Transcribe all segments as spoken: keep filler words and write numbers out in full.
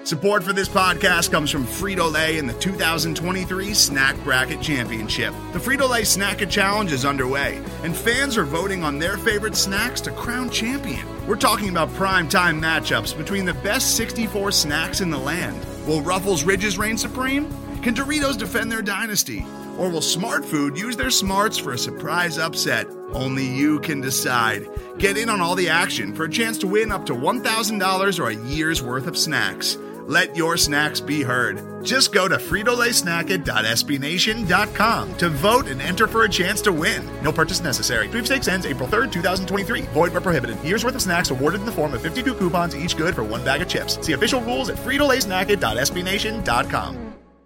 Support for this podcast comes from Frito-Lay and the two thousand twenty-three Snack Bracket Championship. The Frito-Lay Snack-It Challenge is underway, and fans are voting on their favorite snacks to crown champion. We're talking about prime-time matchups between the best sixty-four snacks in the land. Will Ruffles Ridges reign supreme? Can Doritos defend their dynasty? Or will Smart Food use their smarts for a surprise upset? Only you can decide. Get in on all the action for a chance to win up to one thousand dollars or a year's worth of snacks. Let your snacks be heard. Just go to Frito Lay Snack It dot S B Nation dot com to vote and enter for a chance to win. No purchase necessary. Sweepstakes ends April third, twenty twenty-three. Void where prohibited. Year's worth of snacks awarded in the form of fifty-two coupons, each good for one bag of chips. See official rules at Frito Lay Snack It dot S B Nation dot com.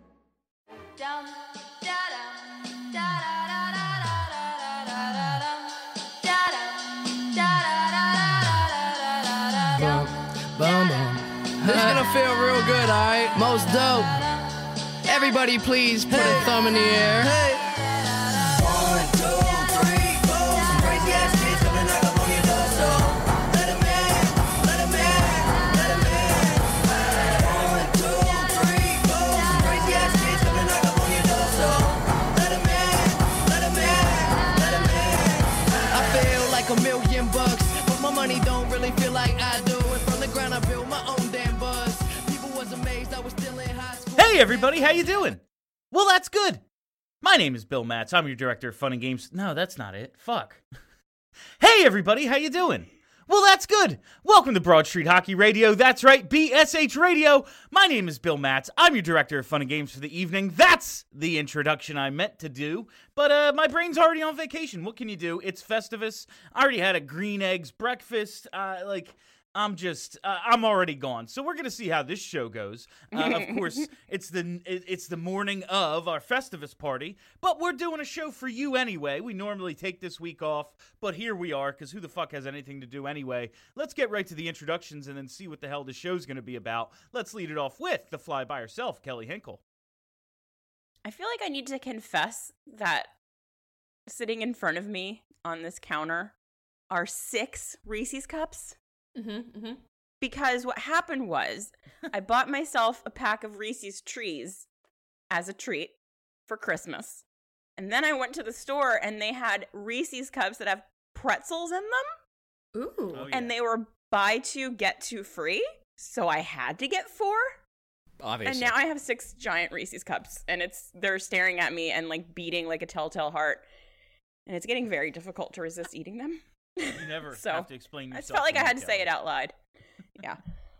Boom, boom. This is gonna feel real good, alright? Most dope. Everybody please put hey. a thumb in the air. Hey. One, two, three, four. Some crazy ass kids coming knock up on your door, so let 'em in, let 'em in, let 'em in. One, two, three, four. Some crazy ass kids coming knock up on your door, so let 'em in, let 'em in, let 'em in. I feel like a million bucks, but my money don't really feel like I do. And from the ground I build my own damn buzz. People was amazed I was still in high school. Hey everybody, how you doing? Well, that's good. My name is Bill Matz. I'm your director of fun and games. No, that's not it. Fuck. Hey everybody, how you doing? Well, that's good. Welcome to Broad Street Hockey Radio. That's right, B S H Radio. My name is Bill Matz. I'm your director of fun and games for the evening. That's the introduction I meant to do. But uh, my brain's already on vacation. What can you do? It's Festivus. I already had a green eggs breakfast. Uh, like... I'm just, uh, I'm already gone. So we're going to see how this show goes. Uh, of course, it's the it's the morning of our Festivus party, but we're doing a show for you anyway. We normally take this week off, but here we are, because who the fuck has anything to do anyway? Let's get right to the introductions and then see what the hell the show's going to be about. Let's lead it off with the fly by herself, Kelly Hinkle. I feel like I need to confess that sitting in front of me on this counter are six Reese's Cups. Mm-hmm, mm-hmm. Because what happened was I bought myself a pack of Reese's Trees as a treat for Christmas. And then I went to the store and they had Reese's Cups that have pretzels in them. Ooh. Oh, yeah. And they were buy two, get two free. So I had to get four. Obviously. And now I have six giant Reese's Cups. And it's they're staring at me and like beating like a telltale heart. And it's getting very difficult to resist eating them. You never so, have to explain yourself. I just felt like to I me, had to Kelly. say it out loud. Yeah.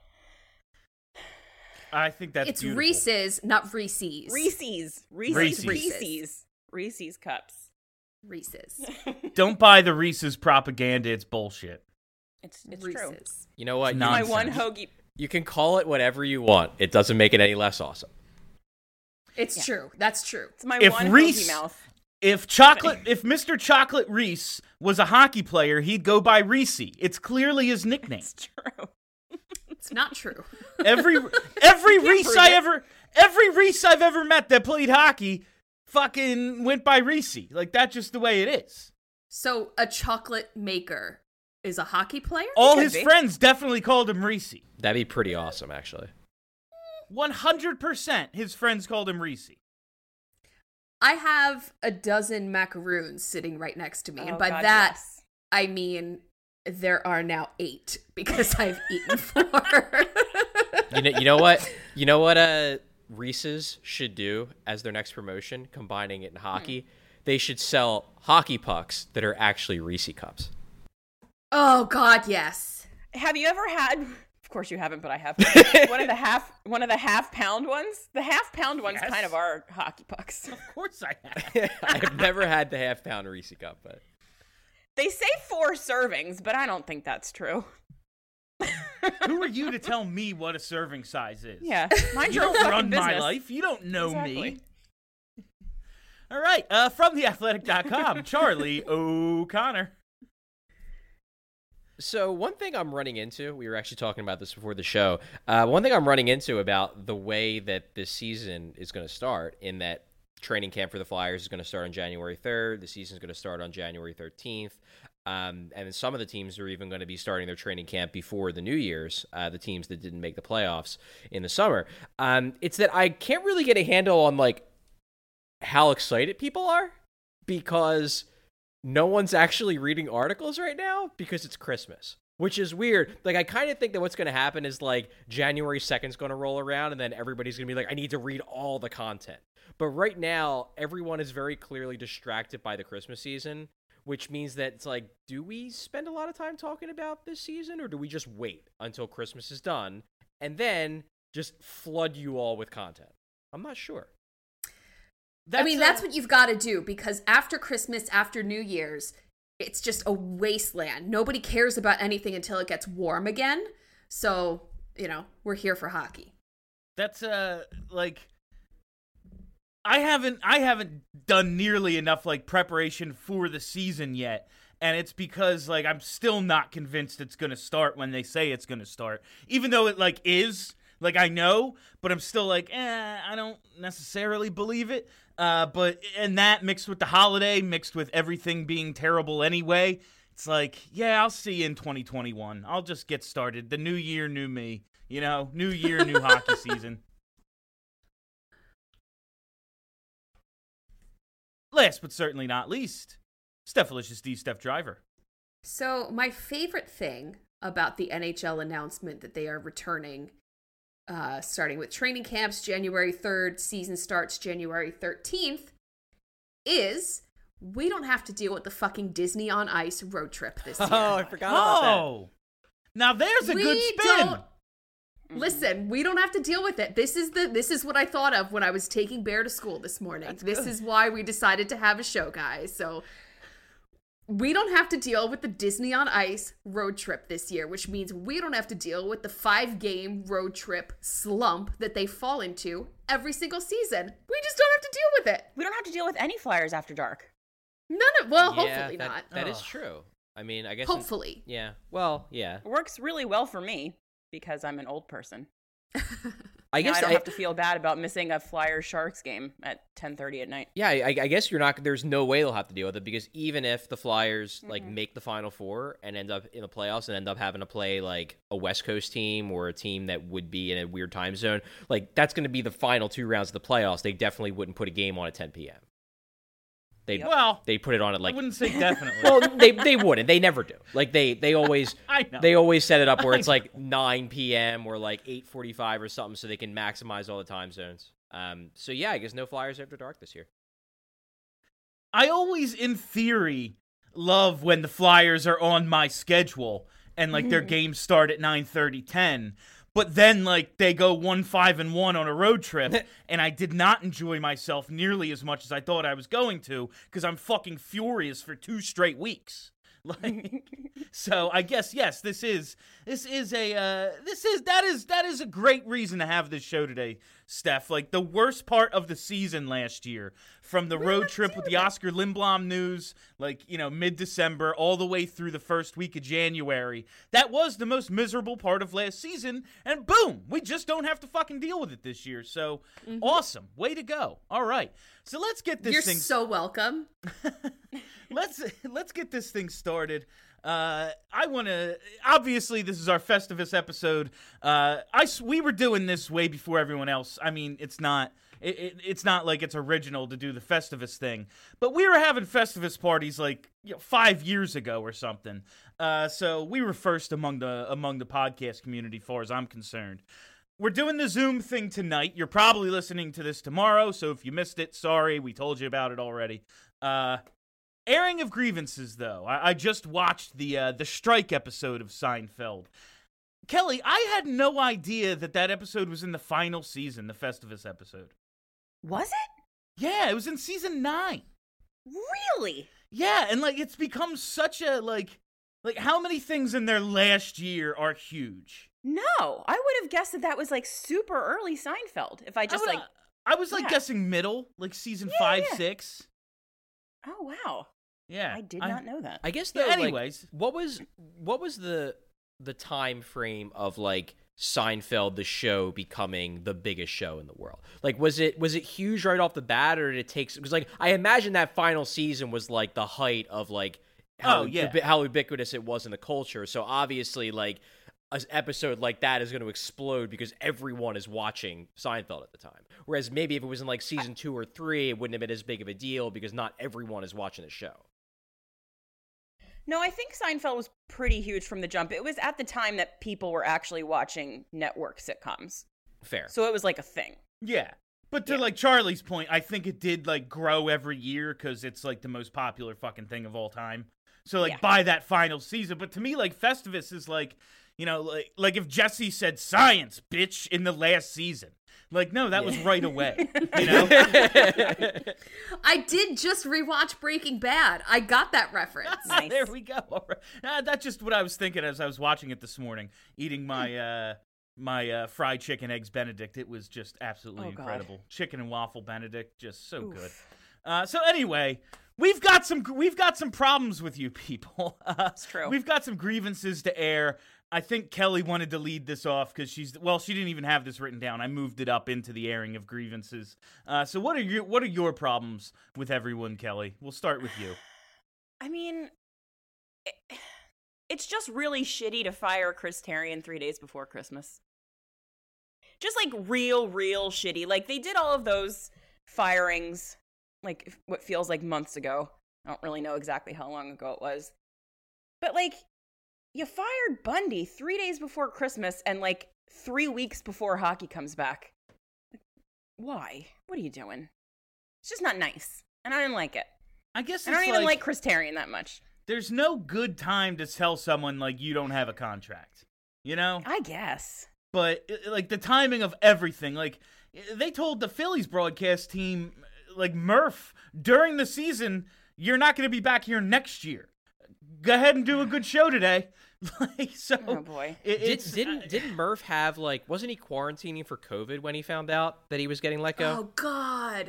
I think that's It's beautiful. Reese's, not Reese's. Reese's. Reese's. Reese's. Reese's. Reese's Cups. Reese's. Don't buy the Reese's propaganda. It's bullshit. It's it's true. Reese's. You know what? You, My Nonsense. one hoagie. you can call it whatever you want. It doesn't make it any less awesome. It's Yeah. true. That's true. It's my If one Reese- hoagie mouth. If chocolate, if Mister Chocolate Reese was a hockey player, he'd go by Reese. It's clearly his nickname. It's true. It's not true. Every every can't Reese prove I it. ever every Reese I've ever met that played hockey fucking went by Reese. Like that's just the way it is. So a chocolate maker is a hockey player? All could his be. friends definitely called him Reese. That'd be pretty awesome, actually. one hundred percent his friends called him Reese. I have a dozen macaroons sitting right next to me. Oh, and by God, that, yes. I mean there are now eight because I've eaten four. You know, you know what? You know what? Uh, Reese's should do as their next promotion, combining it in hockey. Hmm. They should sell hockey pucks that are actually Reese cups. Oh, God, yes. Have you ever had? Of course you haven't, but I have. one of the half, one of the half pound ones. The half pound ones Yes. kind of are hockey pucks. Of course I have. I've never had the half pound Reese cup, but They say four servings, but I don't think that's true. Who are you to tell me what a serving size is? Yeah, mind You your own don't fucking run my business. life. You don't know Exactly. me. All right, uh, from the athletic dot com, Charlie O'Connor. So one thing I'm running into, we were actually talking about this before the show, uh, one thing I'm running into about the way that this season is going to start, in that training camp for the Flyers is going to start on January third, the season is going to start on January thirteenth. Um, and some of the teams are even going to be starting their training camp before the New Year's, uh, the teams that didn't make the playoffs in the summer. Um, it's that I can't really get a handle on, like, how excited people are, because no one's actually reading articles right now because it's Christmas, which is weird. Like, I kind of think that what's going to happen is, like, January second is going to roll around, and then everybody's going to be like, I need to read all the content. But right now, everyone is very clearly distracted by the Christmas season, which means that it's like, do we spend a lot of time talking about this season, or do we just wait until Christmas is done and then just flood you all with content? I'm not sure. That's I mean, a- that's what you've got to do, because after Christmas, after New Year's, it's just a wasteland. Nobody cares about anything until it gets warm again. So, you know, we're here for hockey. That's, uh, like... I haven't I haven't done nearly enough, like, preparation for the season yet, and it's because, like, I'm still not convinced it's going to start when they say it's going to start, even though it, like, is, like, I know, but I'm still like, eh, I don't necessarily believe it, uh, but, and that mixed with the holiday, mixed with everything being terrible anyway, it's like, yeah, I'll see you in twenty twenty-one, I'll just get started, the new year, new me, you know, new year, new hockey season. Last but certainly not least, Stephalicious D, Steph Driver. So my favorite thing about the N H L announcement that they are returning, uh, starting with training camps January third, season starts January thirteenth, is we don't have to deal with the fucking Disney on Ice road trip this year. Oh, I forgot about that. Oh, now there's a we good spin. Don't, listen, we don't have to deal with it. This is the this is what I thought of when I was taking Bear to school this morning. That's this good. Is why we decided to have a show, guys. So we don't have to deal with the Disney on Ice road trip this year, which means we don't have to deal with the five-game road trip slump that they fall into every single season. We just don't have to deal with it. We don't have to deal with any Flyers after dark. None of, well, Yeah, hopefully that, not. That Oh. is true. I mean, I guess. Hopefully. In, yeah. Well, yeah. It works really well for me because I'm an old person. I Now guess I don't I, have to feel bad about missing a Flyers Sharks game at ten thirty at night. Yeah, I, I guess you're not. There's no way they'll have to deal with it, because even if the Flyers like Mhm. make the Final Four and end up in the playoffs and end up having to play like a West Coast team or a team that would be in a weird time zone, like that's going to be the final two rounds of the playoffs. They definitely wouldn't put a game on at ten p.m. They Well, they put it on at like I wouldn't say definitely. well they they wouldn't. They never do. Like they they always I know. they always set it up where I it's like nine p.m. or like eight forty-five or something, so they can maximize all the time zones. Um. So yeah, I guess no Flyers after dark this year. I always, in theory, love when the Flyers are on my schedule and, like, their games start at nine thirty, ten. But then, like, they go one, five, and one on a road trip, and I did not enjoy myself nearly as much as I thought I was going to, because I'm fucking furious for two straight weeks. Like, so I guess yes, this is this is a uh, this is that is that is a great reason to have this show today, Steph. Like the worst part of the season last year, from the road trip with the Oscar Lindblom news, like you know mid December, all the way through the first week of January. That was the most miserable part of last season, and boom, we just don't have to fucking deal with it this year. So mm-hmm. Awesome, way to go! All right, so let's get this You're thing. You're so welcome. let's let's get this thing started. Uh, I want to. Obviously, this is our Festivus episode. Uh, I we were doing this way before everyone else. I mean, it's not. It, it, it's not like it's original to do the Festivus thing, but we were having Festivus parties like you know, five years ago or something. Uh, so we were first among the among the podcast community, far as I'm concerned. We're doing the Zoom thing tonight. You're probably listening to this tomorrow, so if you missed it, sorry, we told you about it already. Uh, airing of grievances, though. I, I just watched the uh, the strike episode of Seinfeld. Kelly, I had no idea that that episode was in the final season, the Festivus episode. Was it? Yeah, it was in season nine. Really? Yeah, and like it's become such a like like how many things in their last year are huge? No, I would have guessed that that was like super early Seinfeld. If I just I would, like, I was like yeah. guessing middle, like season Yeah, five, yeah. six. oh wow, Yeah, I did not know that. I guess Yeah, though, like, anyways. what was what was the the time frame of like Seinfeld the show becoming the biggest show in the world? Like was it was it huge right off the bat, or did it take because like I imagine that final season was like the height of like how Oh, yeah. ubi- how ubiquitous it was in the culture. So obviously, like an episode like that is going to explode because everyone is watching Seinfeld at the time. Whereas maybe if it was in like season two or three, it wouldn't have been as big of a deal because not everyone is watching the show. No, I think Seinfeld was pretty huge from the jump. It was at the time that people were actually watching network sitcoms. Fair. So it was like a thing. Yeah. But to Yeah. like Charlie's point, I think it did like grow every year because it's like the most popular fucking thing of all time. So like Yeah. by that final season, but to me like Festivus is like, you know, like like if Jesse said science, bitch, in the last season. Like no, that was right away. You know? I did just rewatch Breaking Bad. I got that reference. Nice. There we go. All right. Uh, that's just what I was thinking as I was watching it this morning, eating my uh my uh, fried chicken eggs Benedict. It was just absolutely Oh, God. incredible. Chicken and waffle Benedict, just so Oof. good. Uh, so anyway, we've got some we've got some problems with you people. Uh, It's true. We've got some grievances to air. I think Kelly wanted to lead this off because she's well, she didn't even have this written down. I moved it up into the airing of grievances. Uh, so what are your what are your problems with everyone, Kelly? We'll start with you. I mean, it, it's just really shitty to fire Chris Tarian three days before Christmas. Just like real, real shitty. Like they did all of those firings, like what feels like months ago. I don't really know exactly how long ago it was. But like, you fired Bundy three days before Christmas and like three weeks before hockey comes back. Why? What are you doing? It's just not nice. And I didn't like it. I guess I don't it's even like, like Chris Tarian that much. there's no good time to tell someone like you don't have a contract, you know? I guess. But uh, like the timing of everything, like they told the Phillies broadcast team, like Murph, during the season, you're not going to be back here next year. Go ahead and do a good show today. Like so, Oh, boy. it- Did, it's, didn't uh, didn't Murph have like wasn't he quarantining for COVID when he found out that he was getting let go? Oh God.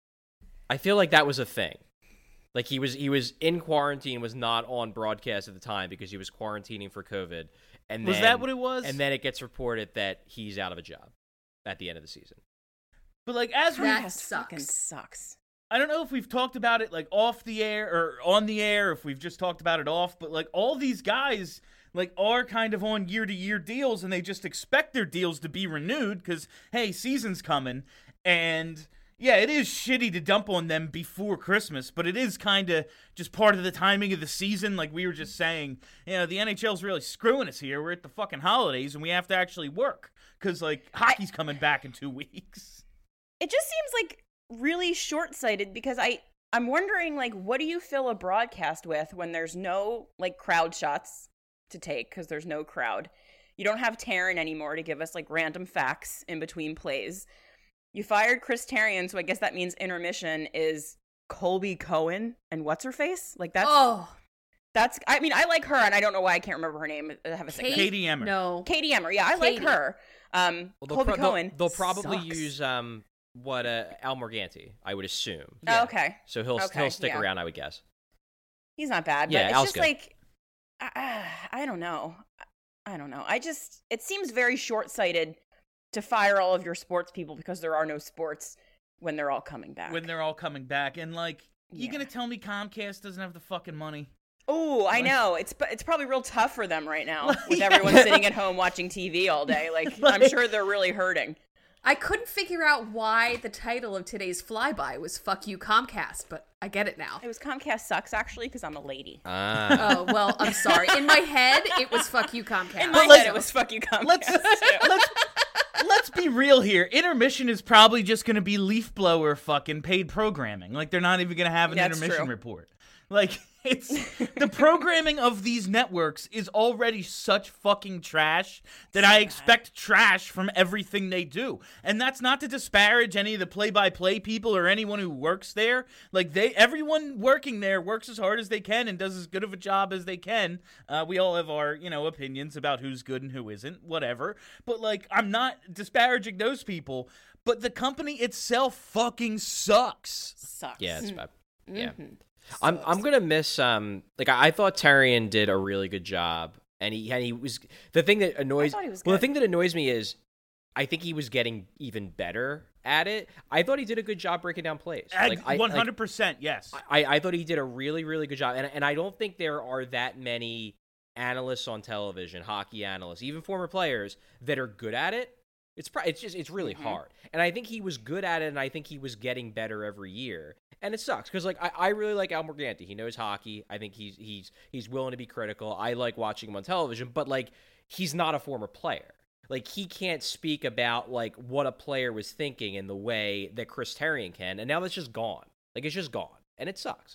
I feel like that was a thing. Like he was he was in quarantine, was not on broadcast at the time because he was quarantining for COVID. And Was then, that what it was? And then it gets reported that he's out of a job at the end of the season. But like as we, That Comcast fucking sucks. sucks. I don't know if we've talked about it like off the air or on the air, if we've just talked about it off, but like all these guys like are kind of on year to year deals and they just expect their deals to be renewed because hey, season's coming. And yeah, it is shitty to dump on them before Christmas, but it is kind of just part of the timing of the season. Like we were just saying, you know, the N H L's really screwing us here. We're at the fucking holidays and we have to actually work because like hockey's coming back in two weeks. It just seems like really short-sighted because I I'm wondering like what do you fill a broadcast with when there's no like crowd shots to take because there's no crowd. You don't have Taryn anymore to give us like random facts in between plays. You fired Chris Tarian, so I guess that means intermission is Colby Cohen and what's her face? Like that's Oh. that's I mean I like her and I don't know why I can't remember her name. I have a second. Kate? Katie Emmer. No. Katie Emmer. Yeah, I Katie. like her. Um Well, they'll, Colby pro- they'll- Cohen. they'll, probably sucks. use um what uh, Al Morganti, I would assume. Oh, okay. So he'll Okay, he'll stick yeah. around, I would guess. He's not bad, Yeah, but it's Al's just good. like I, I don't know. I don't know. I just it seems very short-sighted to fire all of your sports people because there are no sports when they're all coming back. When they're all coming back. And like, you Yeah. gonna tell me Comcast doesn't have the fucking money? Oh, I Like- know. It's it's probably real tough for them right now Like, with yeah. everyone sitting at home watching T V all day. Like, I'm Like- sure they're really hurting. I couldn't figure out why the title of today's flyby was "Fuck You Comcast," but I get it now. It was Comcast sucks actually because I'm a lady. Ah. Oh well, I'm sorry. In my head, it was "Fuck You Comcast." In my let's- head, it was fuck you Comcast. Let's let's let's be real here. Intermission is probably just gonna be leaf blower fucking paid programming. Like they're not even gonna have an That's intermission true. report. Like it's the programming of these networks is already such fucking trash that I expect trash from everything they do. And that's not to disparage any of the play-by-play people or anyone who works there. Like they everyone working there works as hard as they can and does as good of a job as they can. Uh, we all have our, you know, opinions about who's good and who isn't, whatever. But like I'm not disparaging those people, but the company itself fucking sucks. Sucks. Yeah, it's bad. Yeah. Mhm. I'm I'm gonna miss um like I, I thought Tarian did a really good job and he and he was the thing that annoys I thought he was well the good. thing that annoys me is I think he was getting even better at it. I thought he did a good job breaking down plays. Like, I, one hundred percent, like, yes. I, I thought he did a really, really good job. And, and I don't think there are that many analysts on television, hockey analysts, even former players, that are good at it. It's pro- it's just it's really mm-hmm. hard. And I think he was good at it, and I think he was getting better every year. And it sucks because like I, I really like Al Morganti. He knows hockey. I think he's he's he's willing to be critical. I like watching him on television, but like he's not a former player. Like he can't speak about like what a player was thinking in the way that Chris Therien can. And now that's just gone. Like it's just gone, and it sucks.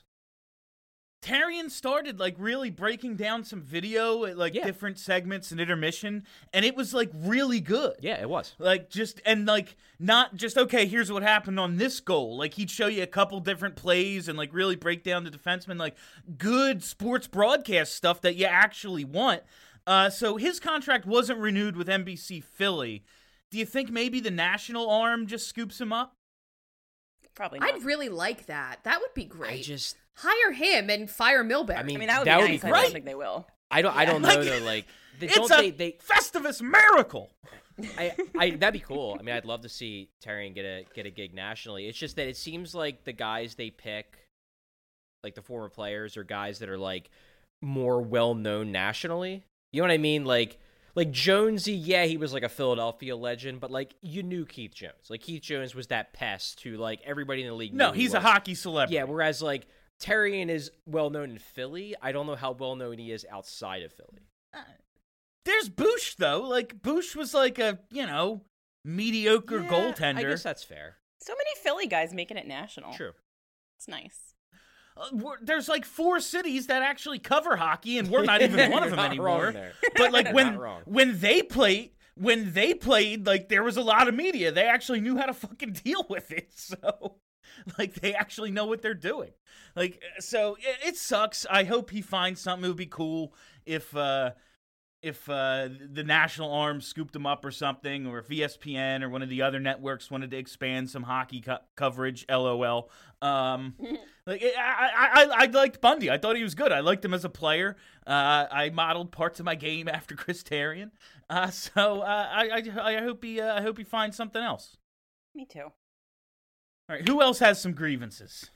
Therien started like really breaking down some video at like yeah. different segments and intermission, and it was like really good. Yeah, it was. Like just and like not just okay, here's what happened on this goal. Like he'd show you a couple different plays and like really break down the defenseman, like good sports broadcast stuff that you actually want. Uh, so his contract wasn't renewed with N B C Philly. Do you think maybe the national arm just scoops him up? Probably not. I'd really like that. That would be great. I just hire him and fire Milbury. I mean, I mean that would that be would nice. be I great. don't think they will. I don't. I don't know Like, though. Like, they, it's don't a they? They Festivus miracle. I, I that'd be cool. I mean, I'd love to see Therien get a get a gig nationally. It's just that it seems like the guys they pick, like the former players, are guys that are like more well known nationally. You know what I mean? Like. Like, Jonesy, yeah, he was, like, a Philadelphia legend, but, like, you knew Keith Jones. Like, Keith Jones was that pest who, like, everybody in the league knew No, he he's a was. hockey celebrity. Yeah, whereas, like, Therien is well-known in Philly. I don't know how well-known he is outside of Philly. Uh, there's Bush, though. Like, Bush was, like, a, you know, mediocre Yeah, goaltender. I guess that's fair. So many Philly guys making it national. True. It's nice. Uh, we're- there's like four cities that actually cover hockey, and we're not even one of them You're not anymore. wrong there. But like You're when not wrong. when they played, when they played, like there was a lot of media. They actually knew how to fucking deal with it. So, like they actually know what they're doing. Like so, it, it sucks. I hope he finds something. It would be cool if uh, if uh, the national arm scooped him up or something, or if E S P N or one of the other networks wanted to expand some hockey co- coverage. LOL. Um, like I, I, I, I liked Bundy. I thought he was good. I liked him as a player. Uh, I modeled parts of my game after Chris Therien. Uh, so uh, I, I, I hope he, uh, I hope he finds something else. Me too. All right, who else has some grievances?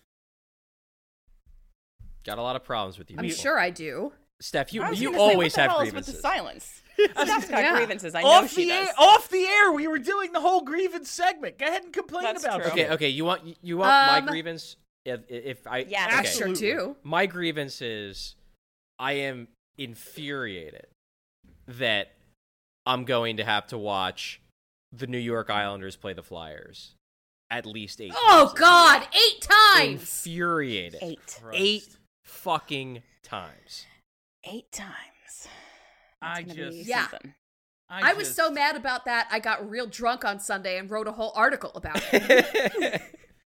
Got a lot of problems with you. I'm people. sure I do. Steph, you I was you gonna say, always what the have hell grievances. Is with the silence. Steph's got Yeah. grievances. I know Off she the does. air, off the air, we were doing the whole grievance segment. Go ahead and complain That's about true. it. Okay, okay. You want you want Um, my grievance? If if I Yes. okay. I sure Absolutely. do. My grievance is I am infuriated that I'm going to have to watch the New York Islanders play the Flyers at least eight Oh times. God, eight times. Infuriated. Eight. Eight fucking times. Eight times. I That's gonna be just- Yeah. something. I was just- so mad about that. I got real drunk on Sunday and wrote a whole article about it.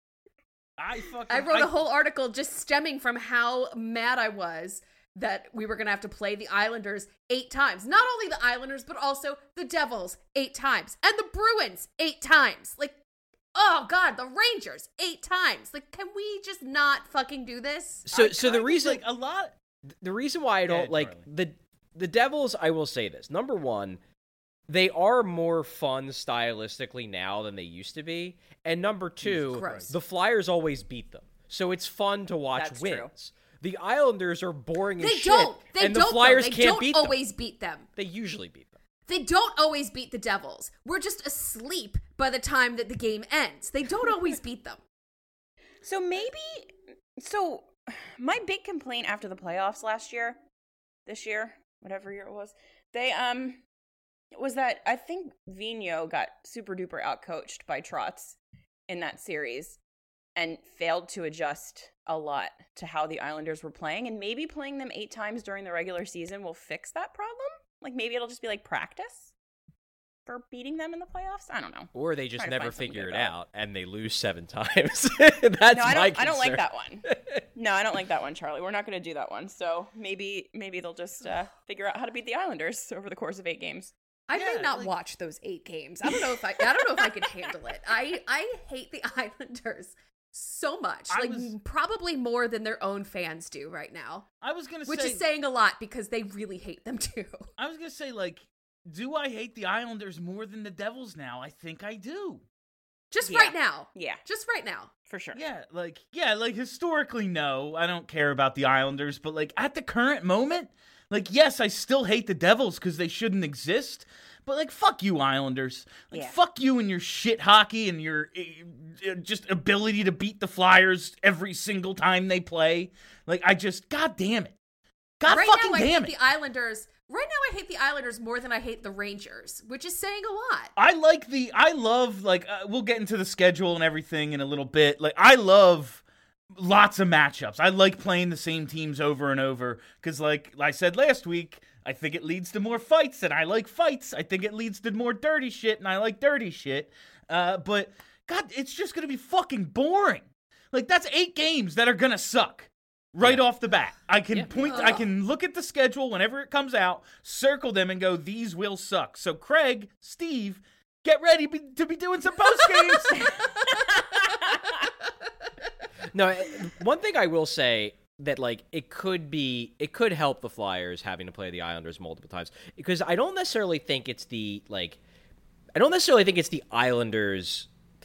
I fucking. I wrote a a whole article just stemming from how mad I was that we were going to have to play the Islanders eight times. Not only the Islanders, but also the Devils eight times. And the Bruins eight times. Like, oh God, the Rangers eight times. Like, can we just not fucking do this? So I so kind the of, reason like, a lot. the reason why I don't ahead, like Charlie. the the Devils, I will say this. Number one, they are more fun stylistically now than they used to be. And number two, Gross. the Flyers always beat them. So it's fun to watch That's wins. true. The Islanders are boring as They shit. don't. They and the don't. though. Flyers They can't don't beat them. always beat them. They usually beat them. They don't always beat the Devils. We're just asleep by the time that the game ends. They don't always beat them. So maybe, so my big complaint after the playoffs last year, this year, whatever year it was, they, um, was that I think Vigneault got super duper outcoached by Trotz in that series and failed to adjust a lot to how the Islanders were playing. And maybe playing them eight times during the regular season will fix that problem. Like maybe it'll just be like practice for beating them in the playoffs. I don't know. Or they just Trying to never find something figure good it about it. out and they lose seven times. That's no, I my don't. I don't like concern. that one. No, I don't like that one, Charlie. We're not going to do that one. So maybe, maybe they'll just uh, figure out how to beat the Islanders over the course of eight games. I Yeah, may not like- watch those eight games. I don't know if I. I don't know if I can handle it. I I hate the Islanders so much, I like was- probably more than their own fans do right now. I was gonna Which say, is saying a lot because they really hate them too. I was gonna say, like, do I hate the Islanders more than the Devils now? I think I do. Just Yeah. right now. Yeah, Just right now. for sure. Yeah, like, yeah, like, historically, no, I don't care about the Islanders, but, like, at the current moment, like, yes, I still hate the Devils because they shouldn't exist, but, like, fuck you, Islanders. Like, Yeah. fuck you and your shit hockey and your uh, just ability to beat the Flyers every single time they play. Like, I just, god damn it. God right fucking now, I damn hate it. the Islanders. Right now, I hate the Islanders more than I hate the Rangers, which is saying a lot. I like the, I love, like, uh, we'll get into the schedule and everything in a little bit. Like, I love lots of matchups. I like playing the same teams over and over because, like I said last week, I think it leads to more fights, and I like fights. I think it leads to more dirty shit, and I like dirty shit. Uh, but, God, it's just going to be fucking boring. Like, that's eight games that are going to suck. Right Yeah. off the bat. I can Yeah. point, I can look at the schedule whenever it comes out, circle them, and go, these will suck. So, Craig, Steve, get ready be, to be doing some post games. No, eh, one thing I will say that like it could be it could help the Flyers having to play the Islanders multiple times because I don't necessarily think it's the like I don't necessarily think it's the Islanders.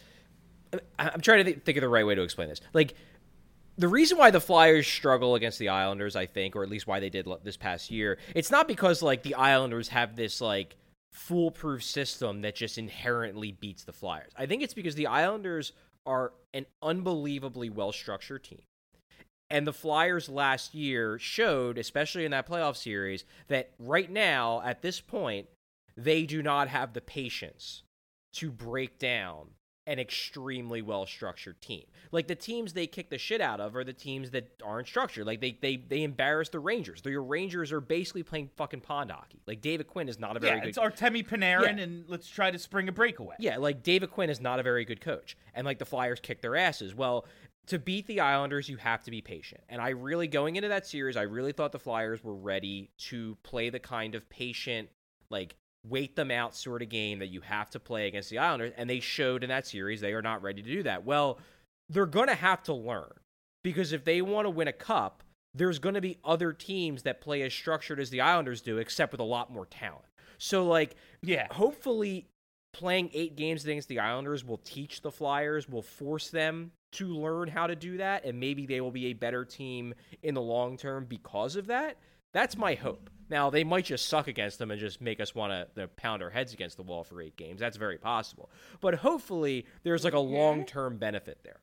I- I'm trying to th- think of the right way to explain this. Like the reason why the Flyers struggle against the Islanders, I think, or at least why they did l- this past year, it's not because like the Islanders have this like foolproof system that just inherently beats the Flyers. I think it's because the Islanders are an unbelievably well-structured team. And the Flyers last year showed, especially in that playoff series, that right now, at this point, they do not have the patience to break down an extremely well-structured team. Like, the teams they kick the shit out of are the teams that aren't structured. Like, they they they embarrass the Rangers. The Rangers are basically playing fucking pond hockey. Like, David Quinn is not a very Yeah, good... it's Artemi Panarin, Yeah. and let's try to spring a breakaway. Yeah, like, David Quinn is not a very good coach. And, like, the Flyers kick their asses. Well, to beat the Islanders, you have to be patient. And I really, going into that series, I really thought the Flyers were ready to play the kind of patient, like, wait them out sort of game that you have to play against the Islanders, and they showed in that series they are not ready to do that. Well, they're going to have to learn, because if they want to win a cup, there's going to be other teams that play as structured as the Islanders do, except with a lot more talent. So, like, Yeah. hopefully playing eight games against the Islanders will teach the Flyers, will force them to learn how to do that, and maybe they will be a better team in the long term because of that. That's my hope. Now, they might just suck against them and just make us want to pound our heads against the wall for eight games. That's very possible. But hopefully, there's like a long-term benefit there.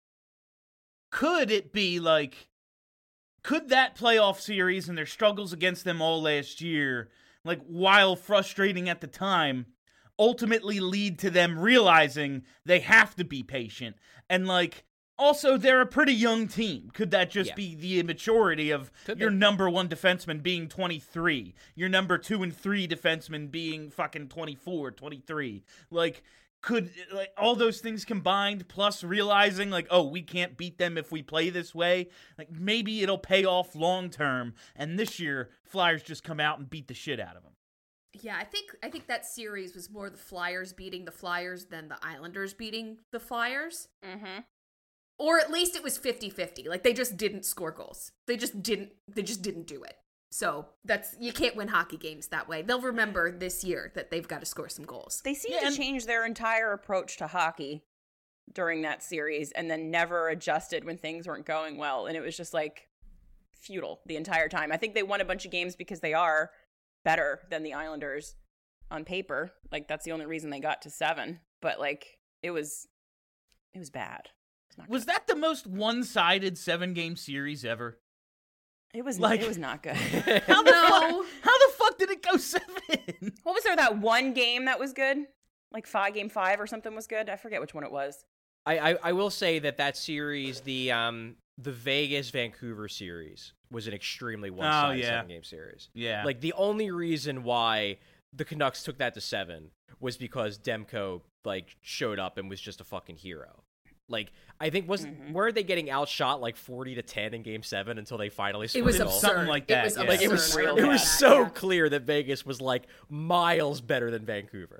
Could it be like, could that playoff series and their struggles against them all last year, like, while frustrating at the time, ultimately lead to them realizing they have to be patient? And, like, also, they're a pretty young team. Could that just Yeah. be the immaturity of Could your be. number one defenseman being twenty-three, your number two and three defenseman being fucking twenty-four, twenty-three? Like, could, like, all those things combined, plus realizing, like, oh, we can't beat them if we play this way, like, maybe it'll pay off long term, and this year, Flyers just come out and beat the shit out of them. Yeah, I think I think that series was more the Flyers beating the Flyers than the Islanders beating the Flyers. Mm-hmm. Or at least it was fifty-fifty. Like, they just didn't score goals. They just didn't they just didn't do it. So that's, you can't win hockey games that way. They'll remember this year that they've got to score some goals. They seemed Yeah, to and- change their entire approach to hockey during that series and then never adjusted when things weren't going well. And it was just like futile the entire time. I think they won a bunch of games because they are better than the Islanders on paper. Like, that's the only reason they got to seven. But, like, it was, it was bad. It's not Was good. that the most one-sided seven-game series ever? It was, like- it was not good. How the No. fuck? How the fuck did it go seven? What was there, that one game that was good? Like five, game five or something was good? I forget which one it was. I, I, I will say that that series, the um the Vegas Vancouver series, was an extremely one-sided yeah. seven-game series. Yeah. Like, the only reason why the Canucks took that to seven was because Demko, like, showed up and was just a fucking hero. Like, I think, was Mhm. weren't they getting outshot like forty to ten in game seven until they finally scored It was a goal? absurd. Something like that, It was yeah. absurd. Like, it was, I real remember it was bad, that, so yeah. clear that Vegas was, like, miles better than Vancouver.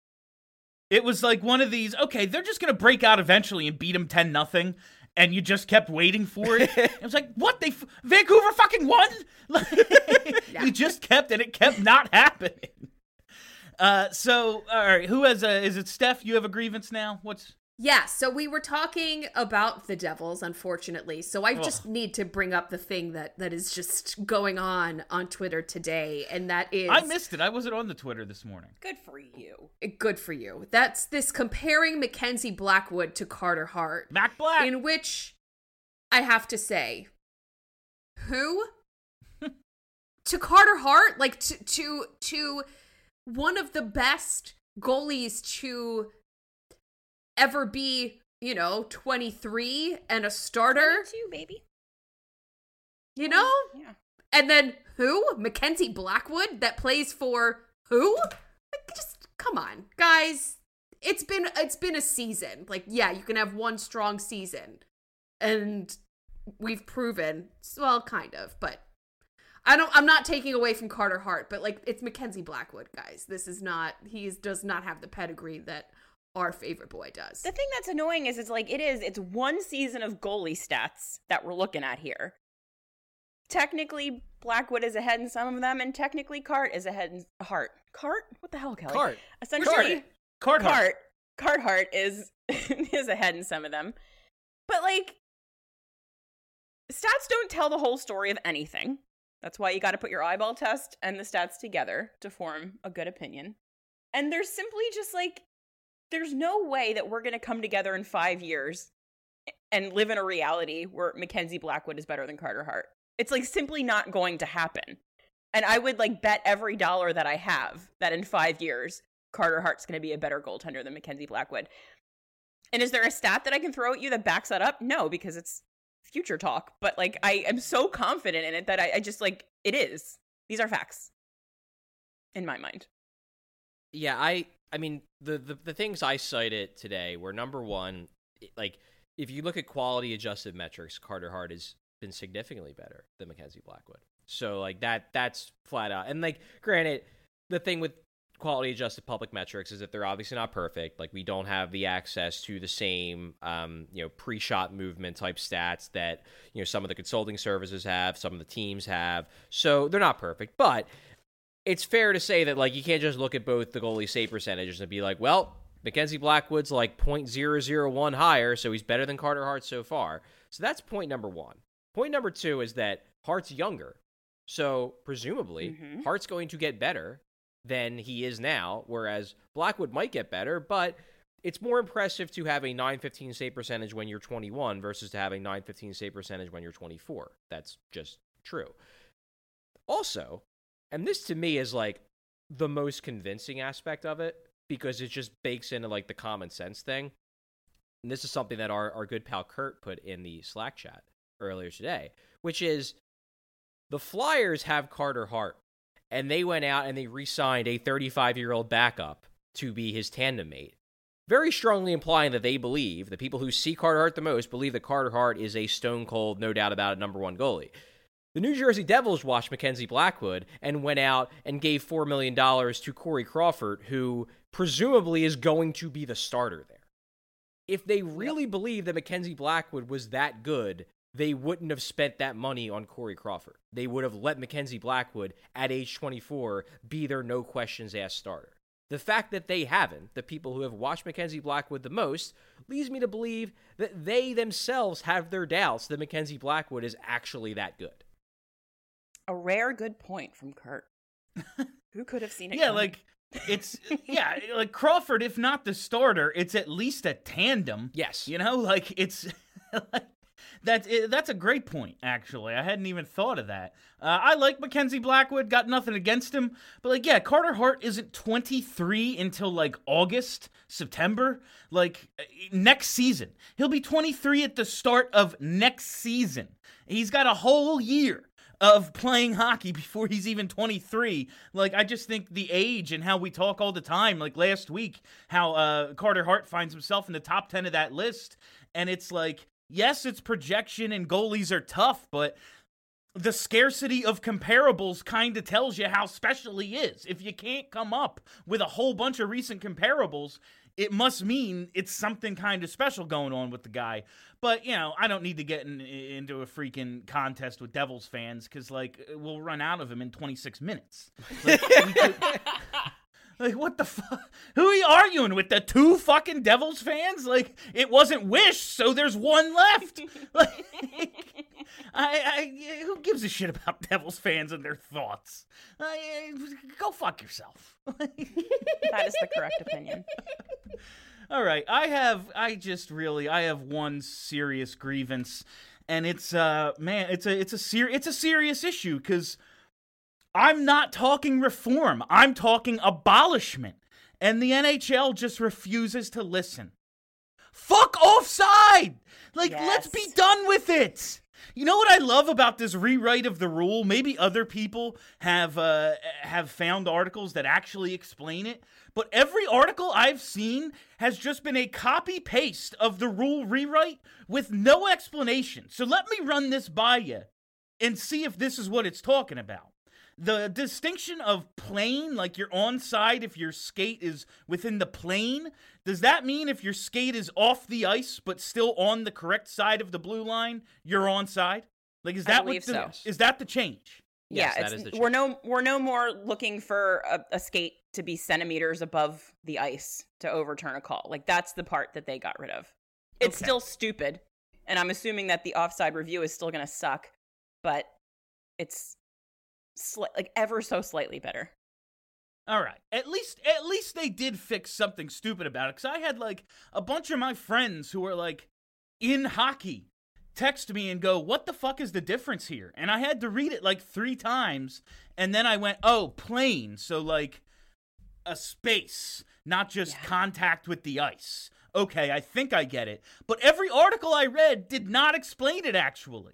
It was like one of these, okay, they're just going to break out eventually and beat them ten nothing, and you just kept waiting for it. It was like, what? They f- Vancouver fucking won? Like, Yeah. You just kept, and it kept not happening. Uh, so, all right, who has a, is it Steph? You have a grievance now? What's... Yeah, so we were talking about the Devils, unfortunately. So I just need to bring up the thing that, that is just going on on Twitter today, and that is... I missed it. I wasn't on the Twitter this morning. Good for you. Good for you. That's this comparing Mackenzie Blackwood to Carter Hart. Mac Black! In which I have to say, who? To Carter Hart? Like, to, to, to one of the best goalies to... ever be, you know, twenty-three and a starter. twenty-two, baby. You know? Yeah. And then who? Mackenzie Blackwood that plays for who? Like, just come on, guys. It's been it's been a season. Like, yeah, you can have one strong season. And we've proven, well, kind of, but I don't I'm not taking away from Carter Hart, but like it's Mackenzie Blackwood, guys. This is not he does not have the pedigree that our favorite boy does. The thing that's annoying is it's like it is it's one season of goalie stats that we're looking at here. Technically, Blackwood is ahead in some of them, and technically Cart is ahead in Hart. Cart? What the hell, Kelly? Cart. Essentially, Cart. Cart. Carthart is is ahead in some of them. But like stats don't tell the whole story of anything. That's why you got to put your eyeball test and the stats together to form a good opinion. And there's simply just like there's no way that we're going to come together in five years and live in a reality where Mackenzie Blackwood is better than Carter Hart. It's like simply not going to happen. And I would like bet every dollar that I have that in five years, Carter Hart's going to be a better goaltender than Mackenzie Blackwood. And is there a stat that I can throw at you that backs that up? No, because it's future talk. But like, I am so confident in it that I, I just like, it is. These are facts in my mind. Yeah, I I mean, the, the, the things I cited today were, number one, like, if you look at quality-adjusted metrics, Carter Hart has been significantly better than Mackenzie Blackwood. So, like, that that's flat out. And, like, granted, the thing with quality-adjusted public metrics is that they're obviously not perfect. Like, we don't have the access to the same, um, you know, pre-shot movement type stats that, you know, some of the consulting services have, some of the teams have. So, they're not perfect. But it's fair to say that, like, you can't just look at both the goalie save percentages and be like, well, Mackenzie Blackwood's like point zero zero one higher, so he's better than Carter Hart so far. So that's point number one. Point number two is that Hart's younger. So presumably, mm-hmm. Hart's going to get better than he is now, whereas Blackwood might get better, but it's more impressive to have a nine fifteen save percentage when you're twenty-one versus to have a nine fifteen save percentage when you're twenty-four. That's just true. Also, and this to me is like the most convincing aspect of it, because it just bakes into like the common sense thing. And this is something that our, our good pal Kurt put in the Slack chat earlier today, which is the Flyers have Carter Hart, and they went out and they re-signed a thirty-five-year-old backup to be his tandem mate, very strongly implying that they believe, the people who see Carter Hart the most, believe that Carter Hart is a stone-cold, no doubt about it, number one goalie. The New Jersey Devils watched Mackenzie Blackwood and went out and gave four million dollars to Corey Crawford, who presumably is going to be the starter there. If they really yep. believe that Mackenzie Blackwood was that good, they wouldn't have spent that money on Corey Crawford. They would have let Mackenzie Blackwood, at age twenty-four, be their no-questions-asked starter. The fact that they haven't, the people who have watched Mackenzie Blackwood the most, leads me to believe that they themselves have their doubts that Mackenzie Blackwood is actually that good. A rare good point from Kurt. Who could have seen it? Yeah, coming? like, it's, yeah, like Crawford, if not the starter, it's at least a tandem. Yes. You know, like, it's, like, that's, it, that's a great point, actually. I hadn't even thought of that. Uh, I like Mackenzie Blackwood, got nothing against him, but, like, yeah, Carter Hart isn't twenty-three until, like, August, September, like, next season. He'll be twenty-three at the start of next season. He's got a whole year of playing hockey before he's even twenty-three. Like, I just think the age and how we talk all the time, like last week, how uh, Carter Hart finds himself in the top ten of that list. And it's like, yes, it's projection and goalies are tough, but the scarcity of comparables kind of tells you how special he is. If you can't come up with a whole bunch of recent comparables, it must mean it's something kind of special going on with the guy. But, you know, I don't need to get in, into a freaking contest with Devils fans because, like, we'll run out of him in twenty-six minutes. Like, we could, Like, what the fuck? Who are you arguing with? The two fucking Devils fans? Like, it wasn't Wish, so there's one left. Like, I, I, who gives a shit about Devils fans and their thoughts? I, go fuck yourself. That is the correct opinion. All right, I have, I just really, I have one serious grievance, and it's, uh, man, it's a, it's a ser- it's a serious issue, because I'm not talking reform, I'm talking abolishment, and the N H L just refuses to listen. Fuck offside! Like, Yes. let's be done with it! You know what I love about this rewrite of the rule? Maybe other people have uh, have found articles that actually explain it, but every article I've seen has just been a copy-paste of the rule rewrite with no explanation. So let me run this by you and see if this is what it's talking about. The distinction of plane, like you're onside if your skate is within the plane, does that mean if your skate is off the ice but still on the correct side of the blue line, you're onside? Like, is I that believe what the, so. is that the change? Yes, yeah, that it's, is the we're no we're no more looking for a, a skate to be centimeters above the ice to overturn a call. Like, that's the part that they got rid of. It's Okay. still stupid, and I'm assuming that the offside review is still going to suck, but it's sli- like ever so slightly better. All right. At least at least they did fix something stupid about it, cuz I had like a bunch of my friends who were like in hockey text me and go, "What the fuck is the difference here?" And I had to read it like three times, and then I went, "Oh, plane." So like a space, not just Yeah. contact with the ice. Okay, I think I get it. But every article I read did not explain it actually.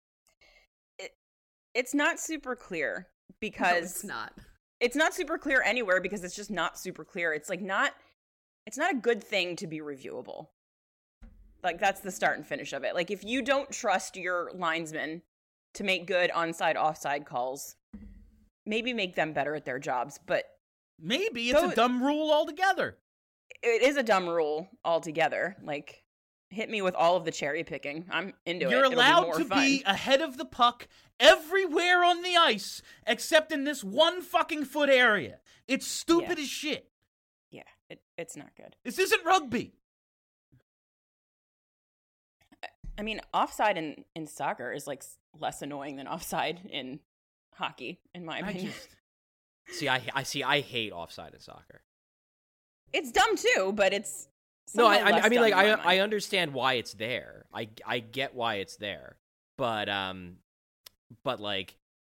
It's not super clear No, because it's not. it's not super clear anywhere because it's just not super clear. It's like not it's not a good thing to be reviewable. Like, that's the start and finish of it. Like, if you don't trust your linesmen to make good onside offside calls, maybe make them better at their jobs, but Maybe it's So- a dumb rule altogether. it is a dumb rule altogether. Like, hit me with all of the cherry picking. I'm into You're it. It'll be allowed more to fun. be ahead of the puck everywhere on the ice except in this one fucking foot area. It's stupid Yeah. as shit. Yeah, it, it's not good. This isn't rugby. I mean, offside in, in soccer is like s- less annoying than offside in hockey, in my I opinion. just See, I I see. I hate offside in soccer. It's dumb too, but it's No, I somehow I, less I mean, dumb like in my I mind. I understand why it's there. I I get why it's there, but um, but like,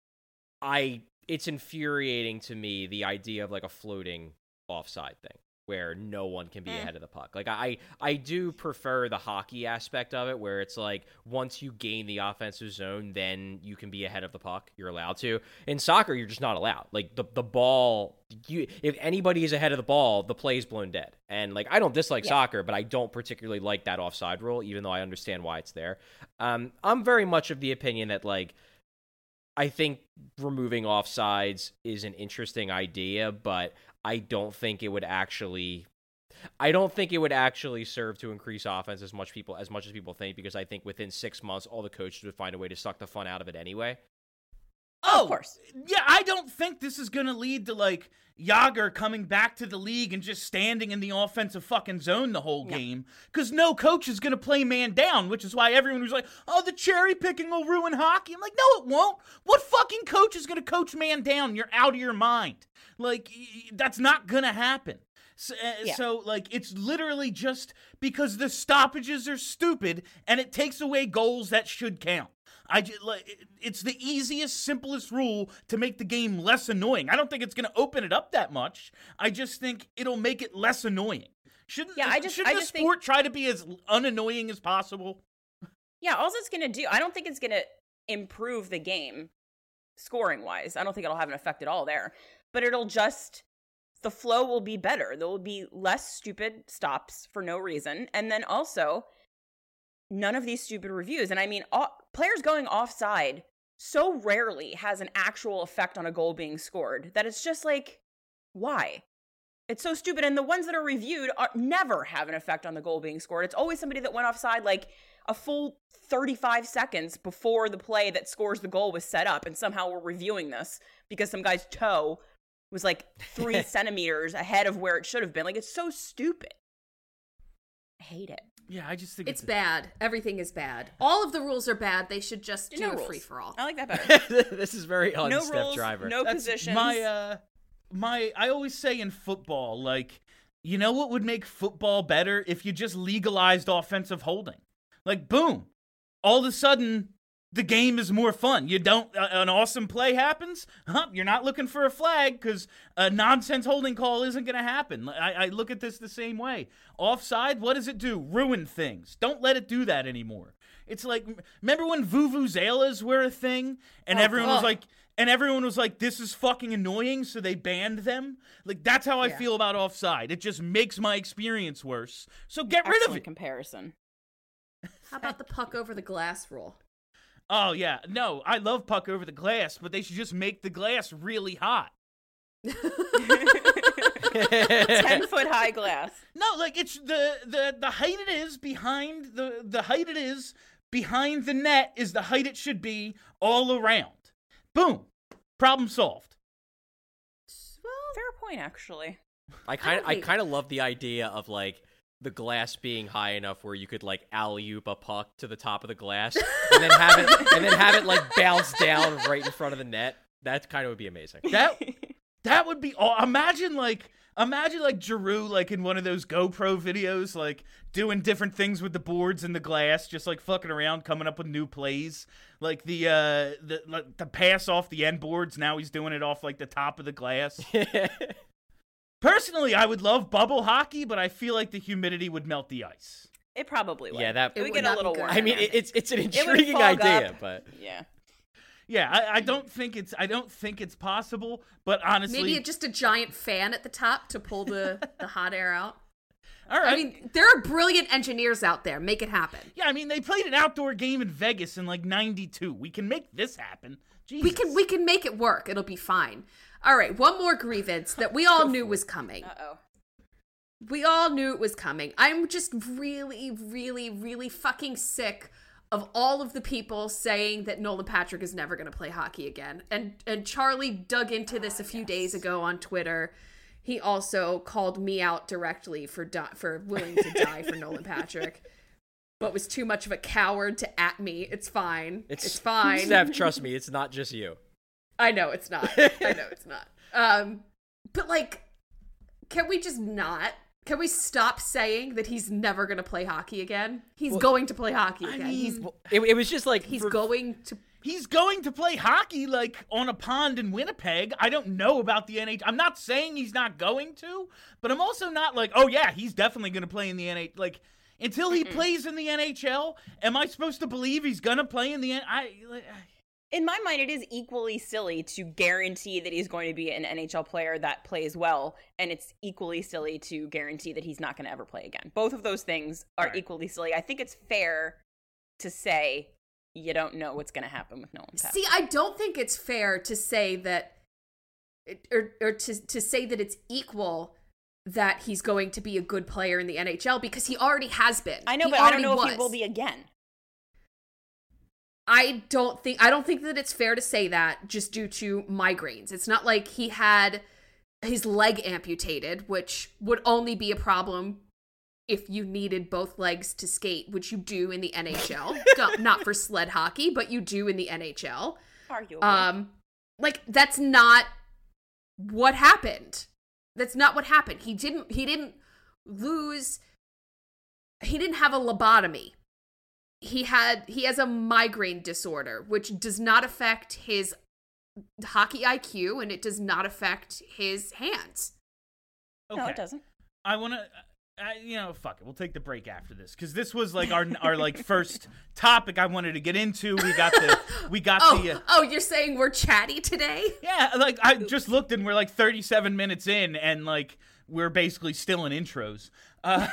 I it's infuriating to me the idea of like a floating offside thing where no one can be Mm. ahead of the puck. Like I I do prefer the hockey aspect of it where it's like once you gain the offensive zone, then you can be ahead of the puck. You're allowed to. In soccer, you're just not allowed. Like the the ball, you if anybody is ahead of the ball, the play is blown dead. And like I don't dislike Yeah. soccer, but I don't particularly like that offside rule, even though I understand why it's there. Um, I'm very much of the opinion that like I think removing offsides is an interesting idea, but I don't think it would actually I don't think it would actually serve to increase offense as much people as much as people think, because I think within six months all the coaches would find a way to suck the fun out of it anyway. Oh, of course. Yeah, I don't think this is going to lead to, like, Yager coming back to the league and just standing in the offensive fucking zone the whole No. game. Because no coach is going to play man down, which is why everyone was like, oh, the cherry picking will ruin hockey. I'm like, no, it won't. What fucking coach is going to coach man down? You're out of your mind. Like, y- y- that's not going to happen. So, uh, Yeah. so, like, it's literally just because the stoppages are stupid and it takes away goals that should count. I just, like, it- it's the easiest, simplest rule to make the game less annoying. I don't think it's going to open it up that much. I just think it'll make it less annoying. Shouldn't, Yeah, I just- shouldn't I the just think- sport try to be as unannoying as possible? Yeah, all it's going to do, I don't think it's going to improve the game scoring wise. I don't think it'll have an effect at all there. But it'll just, the flow will be better. There will be less stupid stops for no reason. And then also, none of these stupid reviews. And I mean, all, players going offside so rarely has an actual effect on a goal being scored that it's just like, why? It's so stupid. And the ones that are reviewed are never have an effect on the goal being scored. It's always somebody that went offside like a full thirty-five seconds before the play that scores the goal was set up. And somehow we're reviewing this because some guy's toe was like three centimeters ahead of where it should have been. Like, it's so stupid. I hate it. Yeah, I just think It's it's, bad. Everything is bad. All of the rules are bad. They should just do No a rules. free for all. I like that better. This is very on No Steph rules, Driver. no That's positions. My uh, my I always say in football, like, you know what would make football better if you just legalized offensive holding. Like, boom, all of a sudden the game is more fun. You don't uh, an awesome play happens, huh? You're not looking for a flag because a nonsense holding call isn't going to happen. I, I look at this the same way. Offside, what does it do? Ruin things. Don't let it do that anymore. It's like, remember when vuvuzelas were a thing and Oh, everyone was God. like, and everyone was like, this is fucking annoying, so they banned them? Like, that's how I Yeah. feel about offside. It just makes my experience worse. So get rid of Excellent it. comparison. How about the puck over the glass rule? Oh, yeah. No, I love puck over the glass, but they should just make the glass really hot. ten foot high glass. No, like, it's the, the, the height it is behind the, the height it is behind the net is the height it should be all around. Boom. Problem solved. Fair point, actually. I kind of I hate- kind of love the idea of like the glass being high enough where you could like alley-oop a puck to the top of the glass and then have it and then have it like bounce down right in front of the net. That kind of would be amazing. That that would be aw- imagine like imagine like Giroux like in one of those GoPro videos like doing different things with the boards and the glass, just like fucking around, coming up with new plays. Like the uh the like, the pass off the end boards, now he's doing it off like the top of the glass. Personally, I would love bubble hockey, but I feel like the humidity would melt the ice. It probably would. Yeah, that- it It would would get a not be little good. warm. I mean, in it, there. it's it's an would intriguing fog idea, up. but Yeah. Yeah, I, I don't think it's I don't think it's possible, but honestly, Maybe just a giant fan at the top to pull the, the hot air out. all right. I mean, there are brilliant engineers out there. Make it happen. Yeah, I mean, they played an outdoor game in Vegas in like ninety-two. We can make this happen. Jesus. We can we can make it work. It'll be fine. All right, one more grievance that we all knew was coming. Uh-oh. We all knew it was coming. I'm just really, really, really fucking sick of all of the people saying that Nolan Patrick is never going to play hockey again. And and Charlie dug into this a few days ago on Twitter. He also called me out directly for di- for willing to die for Nolan Patrick, but was too much of a coward to at me. It's fine. It's, fine. Steph, trust me, it's not just you. I know it's not. I know it's not. Um, but like, can we just not? Can we stop saying that he's never going to play hockey again? He's going to play hockey again. he's It, it was just like he's for- going to. He's going to play hockey like on a pond in Winnipeg. I don't know about the N H L. I'm not saying he's not going to, but I'm also not like, oh yeah, he's definitely going to play in the N H L. Like until he plays in the N H L, am I supposed to believe he's going to play in the N H L? I like, In my mind, it is equally silly to guarantee that he's going to be an N H L player that plays well, and it's equally silly to guarantee that he's not going to ever play again. Both of those things are Right. equally silly. I think it's fair to say you don't know what's going to happen with Nolan Patrick. See, I don't think it's fair to say that, or or to to say that it's equal that he's going to be a good player in the N H L because he already has been. I know, He but I don't already know was. if he will be again. I don't think I don't think that it's fair to say that just due to migraines. It's not like he had his leg amputated, which would only be a problem if you needed both legs to skate, which you do in the N H L. Not- Not for sled hockey, but you do in the N H L. Arguably. Um like that's not what happened. That's not what happened. He didn't he didn't lose he didn't have a lobotomy. He had he has a migraine disorder, which does not affect his hockey I Q and it does not affect his hands. okay. No, it doesn't. I want to. I, you know, fuck it. We'll take the break after this because this was like our our like first topic I wanted to get into. We got the we got Oh, the. Uh, oh, you're saying we're chatty today? Yeah, like I just looked and we're like thirty-seven minutes in and like we're basically still in intros. Uh,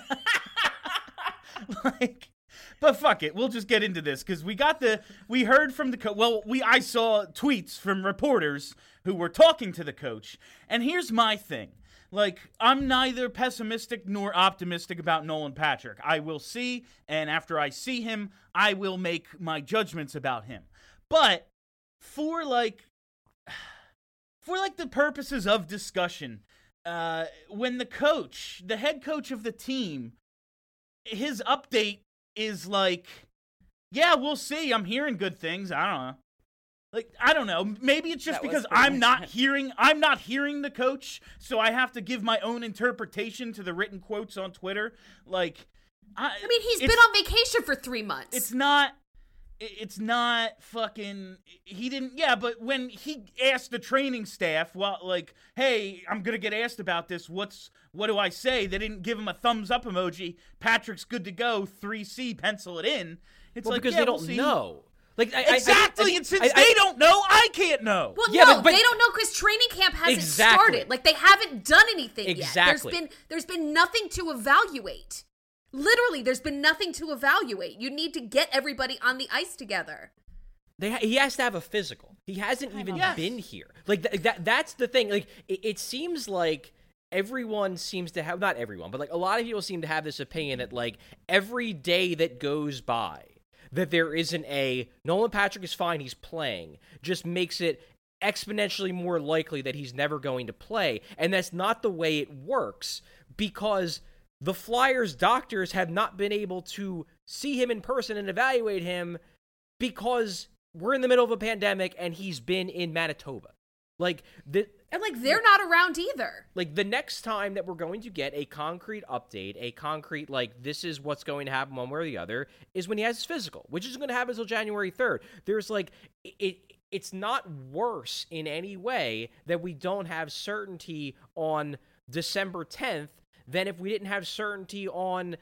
like, but fuck it, we'll just get into this because we got the we heard from the coach. Well, we I saw tweets from reporters who were talking to the coach, and here's my thing. Like, I'm neither pessimistic nor optimistic about Nolan Patrick. I will see, and after I see him, I will make my judgments about him. But for like for like the purposes of discussion, uh, when the coach, the head coach of the team, his update is like, yeah, we'll see. I'm hearing good things. I don't know. Like, I don't know. Maybe it's just That was because pretty I'm not much it. hearing, I'm not hearing the coach, so I have to give my own interpretation to the written quotes on Twitter. Like, I, I mean, he's it's- been on vacation for three months. It's not, it's not fucking, he didn't, yeah, but when he asked the training staff, well, like, hey, I'm going to get asked about this, what's, what do I say? They didn't give him a thumbs up emoji. Patrick's good to go, three C, pencil it in. It's Well, like, because yeah, they we'll don't see. know. Like I, I- Exactly, I, I, and since I- I- they don't know, I can't know. Well, Yeah, no, but- but- they don't know because training camp hasn't Exactly. started. Like, they haven't done anything Exactly. yet. There's been there's been nothing to evaluate. Literally, there's been nothing to evaluate. You need to get everybody on the ice together. They ha- he has to have a physical. He hasn't even Yes. been here. Like th- that. That's the thing. Like it, it seems like everyone seems to have, not everyone, but like a lot of people seem to have this opinion that like every day that goes by that there isn't a Nolan Patrick is fine, he's playing, just makes it exponentially more likely that he's never going to play. And that's not the way it works, because the Flyers doctors have not been able to see him in person and evaluate him because we're in the middle of a pandemic and he's been in Manitoba. Like the And, like, they're not around either. like the next time that we're going to get a concrete update, a concrete, like, this is what's going to happen one way or the other, is when he has his physical, which isn't going to happen until January third. There's, like, it. It's not worse in any way that we don't have certainty on December tenth than if we didn't have certainty on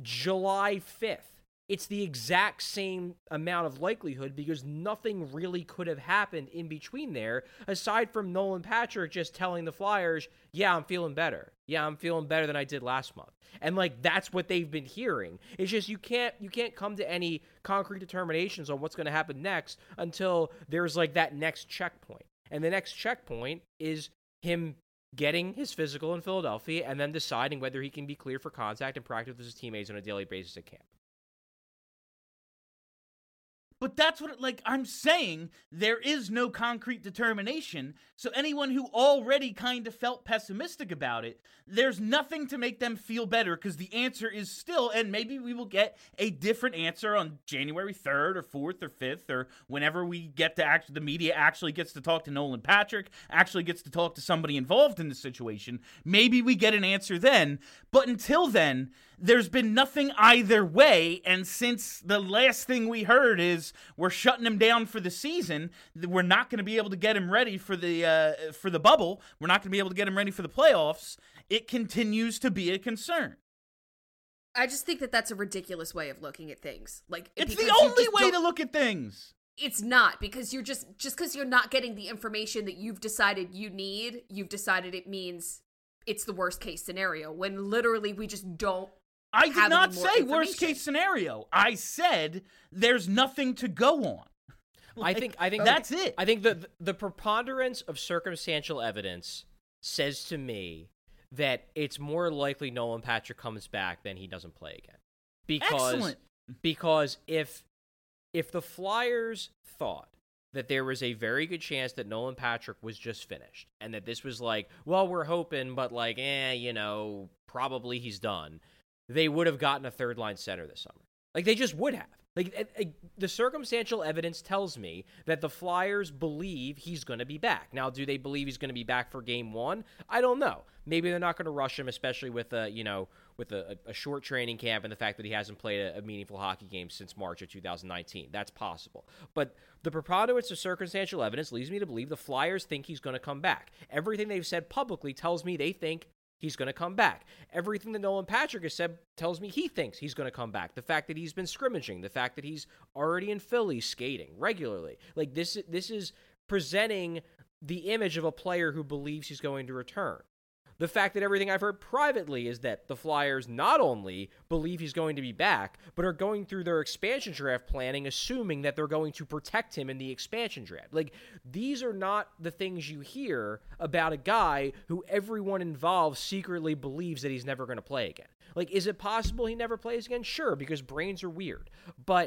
July fifth. It's the exact same amount of likelihood because nothing really could have happened in between there aside from Nolan Patrick just telling the Flyers, yeah, I'm feeling better. Yeah, I'm feeling better than I did last month. And like that's what they've been hearing. It's just you can't you can't come to any concrete determinations on what's going to happen next until there's like that next checkpoint. And the next checkpoint is him getting his physical in Philadelphia and then deciding whether he can be cleared for contact and practice with his teammates on a daily basis at camp. But that's what, like, I'm saying, there is no concrete determination, so anyone who already kind of felt pessimistic about it, there's nothing to make them feel better, because the answer is still, and maybe we will get a different answer on January third or fourth or fifth, or whenever we get to, act- the media actually gets to talk to Nolan Patrick, actually gets to talk to somebody involved in the situation, maybe we get an answer then, but until then, there's been nothing either way, and since the last thing we heard is we're shutting him down for the season, we're not going to be able to get him ready for the uh, for the bubble, we're not going to be able to get him ready for the playoffs, it continues to be a concern. I just think that that's a ridiculous way of looking at things. Like, It's because the you only just way don't- to look at things. It's not, because you're just just because you're not getting the information that you've decided you need, you've decided it means it's the worst case scenario, when literally we just don't. I did have not any more say worst information. case scenario. I said there's nothing to go on. I think I think that's it. I think the the preponderance of circumstantial evidence says to me that it's more likely Nolan Patrick comes back than he doesn't play again. Because Excellent. because if if the Flyers thought that there was a very good chance that Nolan Patrick was just finished and that this was like, well, we're hoping, but like, eh, you know, probably he's done, they would have gotten a third line center this summer. Like, they just would have. Like, it, it, the circumstantial evidence tells me that the Flyers believe he's going to be back. Now, do they believe he's going to be back for game one? I don't know. Maybe they're not going to rush him, especially with a, you know, with a, a short training camp and the fact that he hasn't played a, a meaningful hockey game since March of two thousand nineteen. That's possible. But the preponderance of circumstantial evidence leads me to believe the Flyers think he's going to come back. Everything they've said publicly tells me they think he's going to come back. Everything that Nolan Patrick has said tells me he thinks he's going to come back. The fact that he's been scrimmaging, the fact that he's already in Philly skating regularly. Like, this, this is presenting the image of a player who believes he's going to return. The fact that everything I've heard privately is that the Flyers not only believe he's going to be back, but are going through their expansion draft planning, assuming that they're going to protect him in the expansion draft. Like, these are not the things you hear about a guy who everyone involved secretly believes that he's never going to play again. Like, is it possible he never plays again? Sure, because brains are weird. But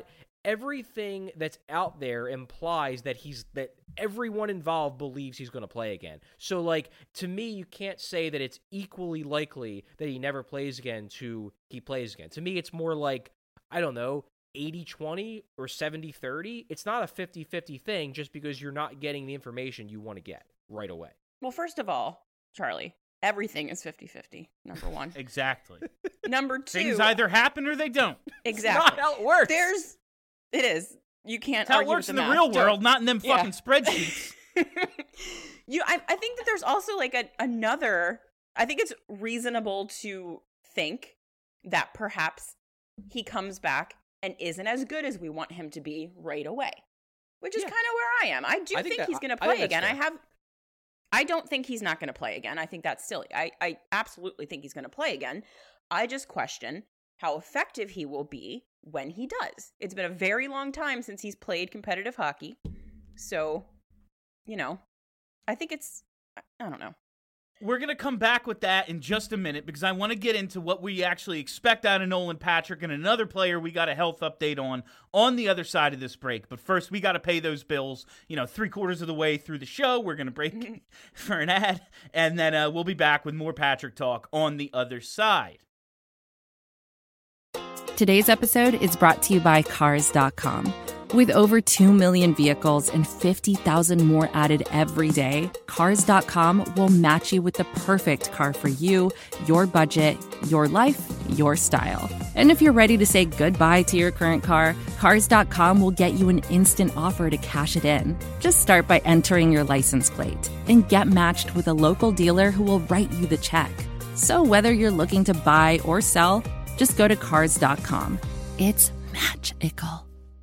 everything that's out there implies that he's that everyone involved believes he's going to play again. So, like, to me, you can't say that it's equally likely that he never plays again to he plays again. To me, it's more like, I don't know, eighty twenty or seventy thirty. It's not a fifty-fifty thing just because you're not getting the information you want to get right away. Well, first of all, Charlie, everything is fifty-fifty, number one. Exactly. Number two. Things either happen or they don't. Exactly. It's not how it works. There's, it is. You can't That's how it argue works with in the math. real Don't- world, not in them Yeah. fucking spreadsheets. you, I, I think that there's also like a, another, I think it's reasonable to think that perhaps he comes back and isn't as good as we want him to be right away, which is Yeah. kind of where I am. I do I think, think that- he's going to I- I play think that's again. I fair. have, I don't think he's not going to play again. I think that's silly. I, I absolutely think he's going to play again. I just question how effective he will be when he does. It's been a very long time since he's played competitive hockey. So, you know, I think it's, I don't know. We're going to come back with that in just a minute because I want to get into what we actually expect out of Nolan Patrick and another player we got a health update on on the other side of this break. But first, we got to pay those bills. You know, three quarters of the way through the show, we're going to break for an ad, and then uh, we'll be back with more Patrick talk on the other side. Today's episode is brought to you by Cars dot com. With over two million vehicles and fifty thousand more added every day, Cars dot com will match you with the perfect car for you, your budget, your life, your style. And if you're ready to say goodbye to your current car, Cars dot com will get you an instant offer to cash it in. Just start by entering your license plate and get matched with a local dealer who will write you the check. So whether you're looking to buy or sell, just go to Cars dot com. It's magical.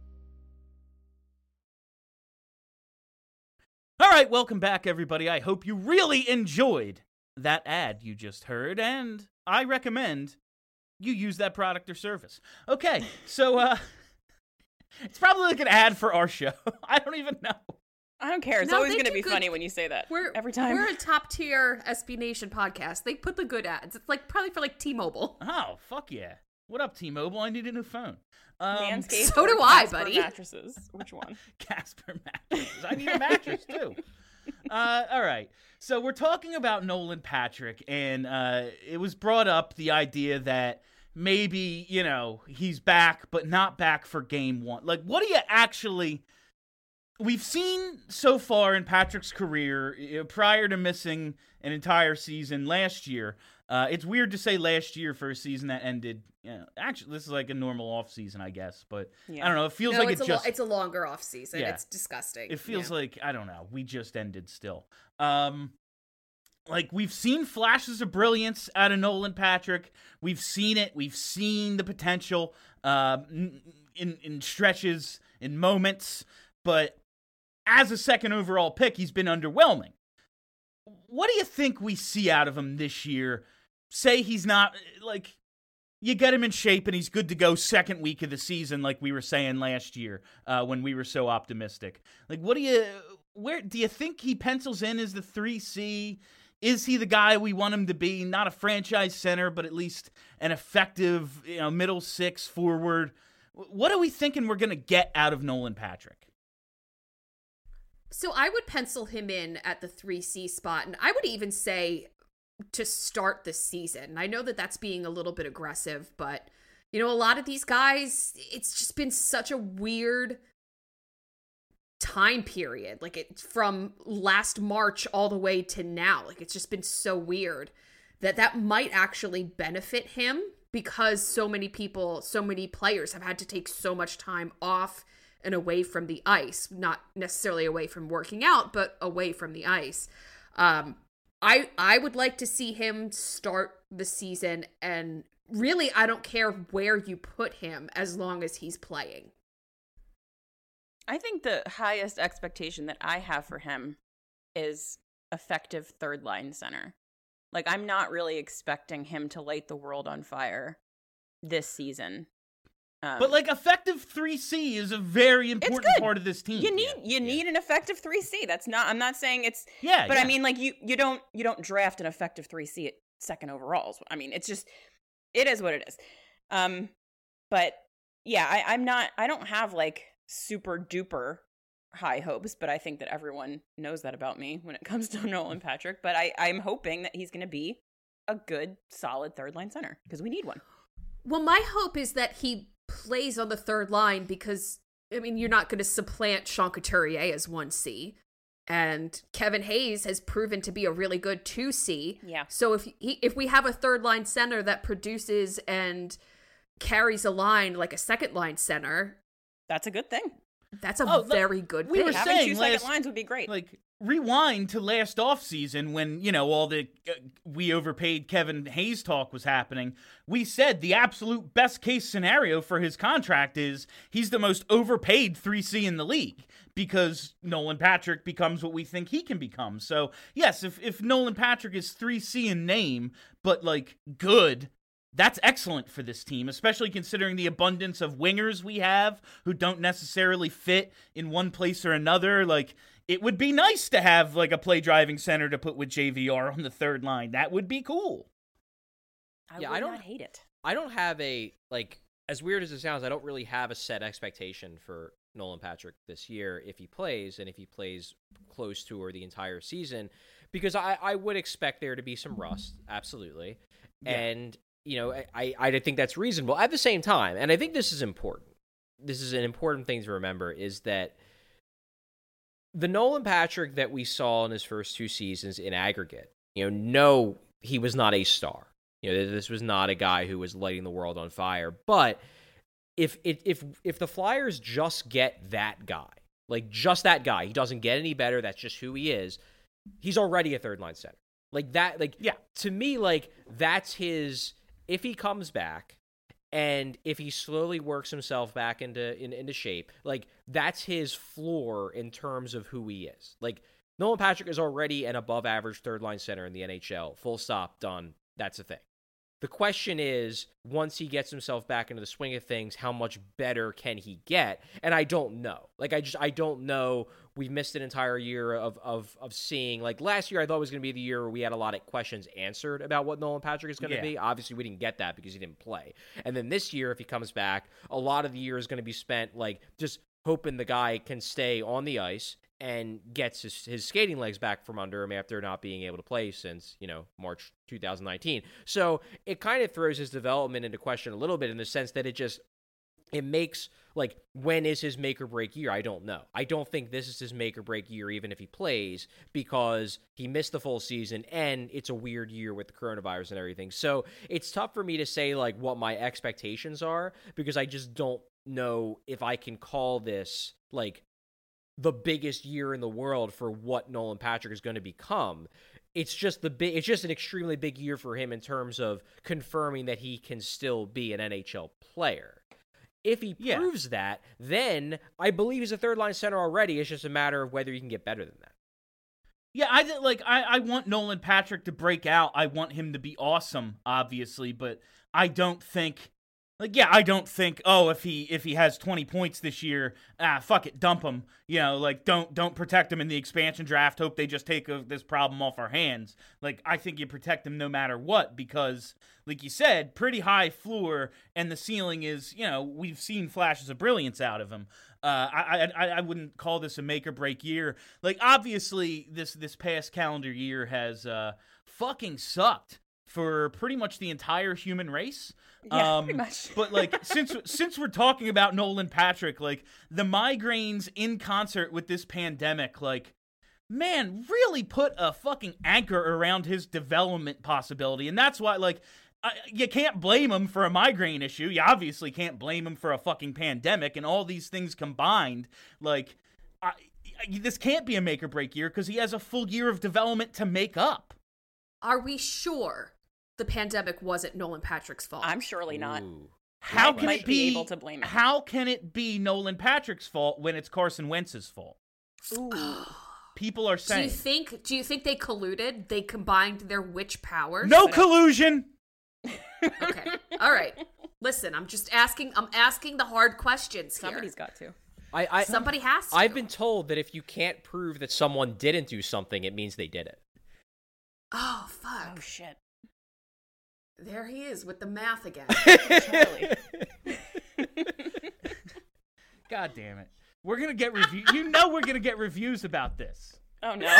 All right, welcome back, everybody. I hope you really enjoyed that ad you just heard, and I recommend you use that product or service. Okay, so uh, it's probably like an ad for our show. I don't even know. I don't care. It's No, always they going to do be good- funny when you say that. We're every time. We're a top tier S B Nation podcast. They put the good ads. It's like probably for like T-Mobile. Oh, fuck yeah. What up, T-Mobile? I need a new phone. Um, Manscaped so or do I, Casper buddy. Mattresses. Which one? Casper mattresses. I need a mattress, too. Uh, all right. So we're talking about Nolan Patrick, and uh, it was brought up, the idea that maybe, you know, he's back, but not back for game one. Like, what do you actually... We've seen so far in Patrick's career, uh, prior to missing an entire season last year, uh, it's weird to say last year for a season that ended, you know, actually, this is like a normal off season, I guess, but Yeah. I don't know, it feels No, like it's it a just... lo- it's a longer off season. Yeah. It's disgusting. It feels Yeah. like, I don't know, we just ended still. Um, like, we've seen flashes of brilliance out of Nolan Patrick. We've seen it. We've seen the potential uh, in, in stretches, in moments. But as a second overall pick, he's been underwhelming. What do you think we see out of him this year? Say he's not, like... You get him in shape and he's good to go second week of the season, like we were saying last year uh, when we were so optimistic. Like, what do you, where do you think he pencils in as the three C? Is he the guy we want him to be? Not a franchise center, but at least an effective, you know, middle six forward. What are we thinking we're going to get out of Nolan Patrick? So I would pencil him in at the three C spot, and I would even say to start the season. I know that that's being a little bit aggressive, but, you know, a lot of these guys, it's just been such a weird time period. Like, it from last March all the way to now. Like, it's just been so weird that that might actually benefit him because so many people, so many players have had to take so much time off and away from the ice. Not necessarily away from working out, but away from the ice. Um, I I would like to see him start the season, and really I don't care where you put him as long as he's playing. I think the highest expectation that I have for him is effective third line center. Like, I'm not really expecting him to light the world on fire this season. Um, But, like, effective three C is a very important good. part of this team. you need Yeah, you yeah. need an effective three C. That's not. I'm not saying it's. Yeah, But yeah. I mean, like, you you don't you don't draft an effective three C at second overalls. I mean, it's just it is what it is. Um, but yeah, I, I'm not, I don't have like super duper high hopes, but I think that everyone knows that about me when it comes to Nolan Patrick. But I, I'm hoping that he's going to be a good, solid third line center because we need one. Well, my hope is that he plays on the third line because, I mean, you're not going to supplant Sean Couturier as one C. And Kevin Hayes has proven to be a really good two C. Yeah. So if he, if we have a third line center that produces and carries a line like a second line center, that's a good thing. That's a Oh, look, very good we thing. were Having saying two second last- lines would be great. Like, rewind to last offseason when, you know, all the uh, we overpaid Kevin Hayes talk was happening. We said the absolute best case scenario for his contract is he's the most overpaid three C in the league because Nolan Patrick becomes what we think he can become. So, yes, if, if Nolan Patrick is three C in name, but, like, good, that's excellent for this team, especially considering the abundance of wingers we have who don't necessarily fit in one place or another. Like, it would be nice to have, like, a play-driving center to put with J V R on the third line. That would be cool. I Yeah, would I don't- not hate it. I don't have a, like, as weird as it sounds, I don't really have a set expectation for Nolan Patrick this year if he plays, and if he plays close to or the entire season, because I, I would expect there to be some rust, absolutely. Yeah. And, you know, I, I think that's reasonable. At the same time, and I think this is important, this is an important thing to remember, is that the Nolan Patrick that we saw in his first two seasons in aggregate, you know, no, he was not a star. You know, this was not a guy who was lighting the world on fire. But if if if if the Flyers just get that guy, like just that guy, he doesn't get any better. That's just who he is. He's already a third line center. Like that. Like Yeah. To me, like that's his. If he comes back, and if he slowly works himself back into in, into shape, like that's his floor in terms of who he is. Like Nolan Patrick is already an above average third line center in the N H L. Full stop, done. That's a thing. The question is, once he gets himself back into the swing of things, how much better can he get? And I don't know. Like, I just, I don't know. We've missed an entire year of of of seeing, like, last year I thought was going to be the year where we had a lot of questions answered about what Nolan Patrick is going to Yeah. be. Obviously, we didn't get that because he didn't play. And then this year, if he comes back, a lot of the year is going to be spent, like, just hoping the guy can stay on the ice and gets his, his skating legs back from under him after not being able to play since, you know, March two thousand nineteen. So it kind of throws his development into question a little bit in the sense that it just, it makes, like, when is his make or break year? I don't know. I don't think this is his make or break year, even if he plays, because he missed the full season and it's a weird year with the coronavirus and everything. So it's tough for me to say, like, what my expectations are, because I just don't know if I can call this, like, the biggest year in the world for what Nolan Patrick is going to become. It's just the big, it's just an extremely big year for him in terms of confirming that he can still be an N H L player. If he Yeah. proves that, then I believe he's a third line center already. It's just a matter of whether he can get better than that. Yeah, I did- like. I, I want Nolan Patrick to break out. I want him to be awesome, obviously, but I don't think. Like, yeah, I don't think, oh, if he if he has twenty points this year, ah, fuck it, dump him. You know, like, don't don't protect him in the expansion draft. Hope they just take a, this problem off our hands. Like, I think you protect him no matter what because, like you said, pretty high floor, and the ceiling is, you know, we've seen flashes of brilliance out of him. Uh, I, I I wouldn't call this a make or break year. Like, obviously, this this past calendar year has uh, fucking sucked for pretty much the entire human race. Yeah, um, pretty much. But, like, since since we're talking about Nolan Patrick, like, the migraines in concert with this pandemic, like, man, really put a fucking anchor around his development possibility. And that's why, like, I, you can't blame him for a migraine issue. You obviously can't blame him for a fucking pandemic. And all these things combined, like, I, I, this can't be a make or break year because he has a full year of development to make up. Are we sure the pandemic wasn't Nolan Patrick's fault? I'm surely not. Ooh. How Might- can might it be be able to blame it. How can it be Nolan Patrick's fault when it's Carson Wentz's fault? Ooh. People are Do saying you think? Do you think they colluded? They combined their witch powers? no But- collusion. Okay. All right. Listen, I'm just asking. I'm asking the hard questions here. Somebody's got to. I, I Somebody has to. I've been told that if you can't prove that someone didn't do something, it means they did it. Oh fuck! Oh shit. There he is with the math again. Charlie. gonna get review. You know we're gonna get reviews about this. Oh no.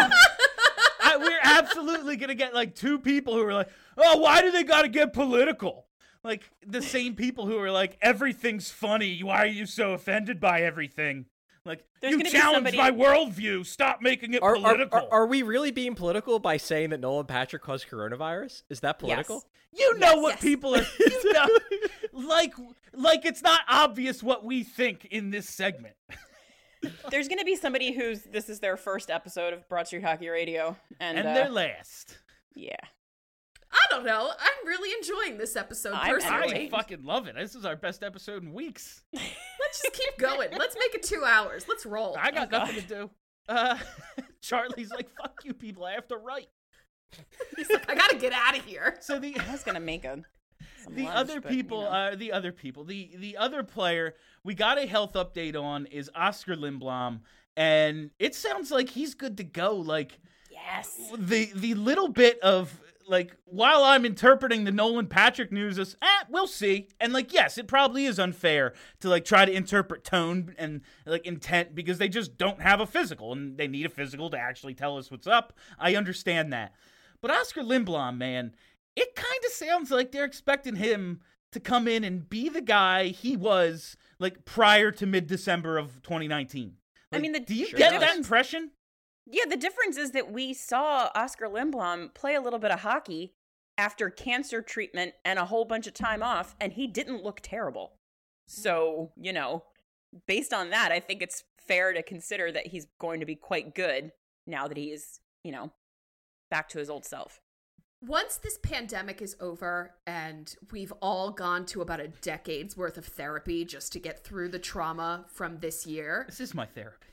I, we're absolutely gonna get like two people who are like, "Oh, why do they gotta get political?" Like the same people who are like, "Everything's funny. Why are you so offended by everything?" Like, There's you gonna be challenge somebody- my worldview. Stop making it Are, are, political. are, are we really being political by saying that Nolan Patrick caused coronavirus? Is that political? You know Yes, what yes. people are. You know, like, like it's not obvious what we think in this segment. There's going to be somebody who's this is their first episode of Broad Street Hockey Radio, and, And uh, they're last. yeah, I don't know. I'm really enjoying this episode I'm personally. I entertained. fucking love it. This is our best episode in weeks. Let's just keep going. Let's make it two hours. Let's roll. I got Oh, nothing to do. Uh, Charlie's like, "Fuck you, people. I have to write." He's like, I gotta get out of here. So the I was going to make a some the lunch, other but, you people, know. uh, the other people, the the other player we got a health update on is Oscar Lindblom, and it sounds like he's good to go. Like yes, the the little bit of like while I'm interpreting the Nolan Patrick news as eh, we'll see, and like yes, it probably is unfair to like try to interpret tone and like intent because they just don't have a physical and they need a physical to actually tell us what's up. I understand that, but Oscar Lindblom, man, it kind of sounds like they're expecting him to come in and be the guy he was like prior to mid-December of twenty nineteen. I Like, mean, the- do you Sure get does. that impression? yeah. The difference is that we saw Oscar Lindblom play a little bit of hockey after cancer treatment and a whole bunch of time off, and he didn't look terrible. So you know, based on that, I think it's fair to consider that he's going to be quite good now that he is, you know, back to his old self. Once this pandemic is over and we've all gone to about a decade's worth of therapy just to get through the trauma from this year, This is my therapy.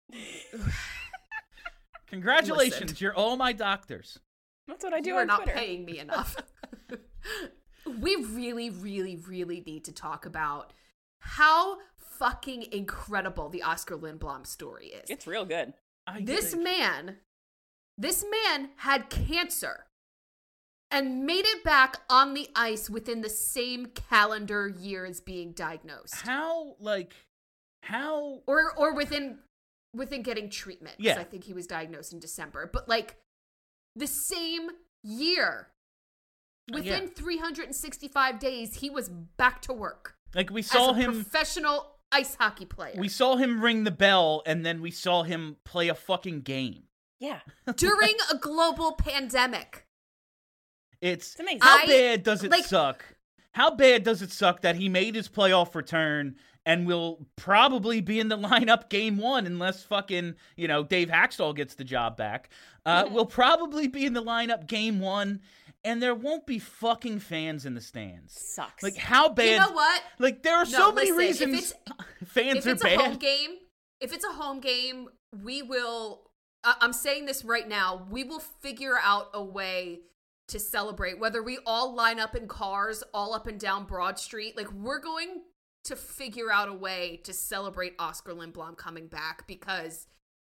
Congratulations, Listen. you're all my doctors. That's what I do you are on not Twitter. paying me enough. We really, really, really need to talk about how fucking incredible the Oscar Lindblom story is. It's real good. I This think- man, this man had cancer and made it back on the ice within the same calendar year as being diagnosed. how like how Or or within within getting treatment. 'cause Yeah. I think he was diagnosed in December. But like the same year. Within Yeah. three hundred sixty-five days, he was back to work. like we saw as a him professional ice hockey player. we saw him ring the bell and then we saw him play a fucking game. Yeah. during a global pandemic. It's, It's amazing. how I- bad does it like- suck? How bad does it suck that he made his playoff return and will probably be in the lineup game one unless fucking, you know, Dave Hackstall gets the job back. Uh, will probably be in the lineup game one and there won't be fucking fans in the stands. Sucks. Like how bad? You know what? Like there are No, so many listen, if reasons fans if are it's bad. a home game, if it's a home game, we will. I- I'm saying this right now. We will figure out a way to celebrate. Whether we all line up in cars all up and down Broad Street, like we're going to figure out a way to celebrate Oscar Lindblom coming back because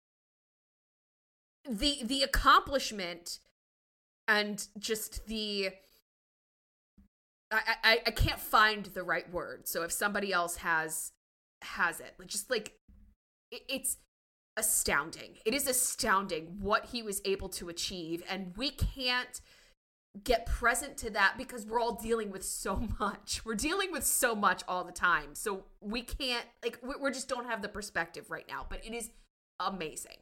the the accomplishment and just the I, I I can't find the right word. So if somebody else has has it, like just like it, it's astounding. It is astounding what he was able to achieve, and we can't get present to that because we're all dealing with so much. We're dealing with so much all the time. So we can't like we, we just don't have the perspective right now. But it is amazing.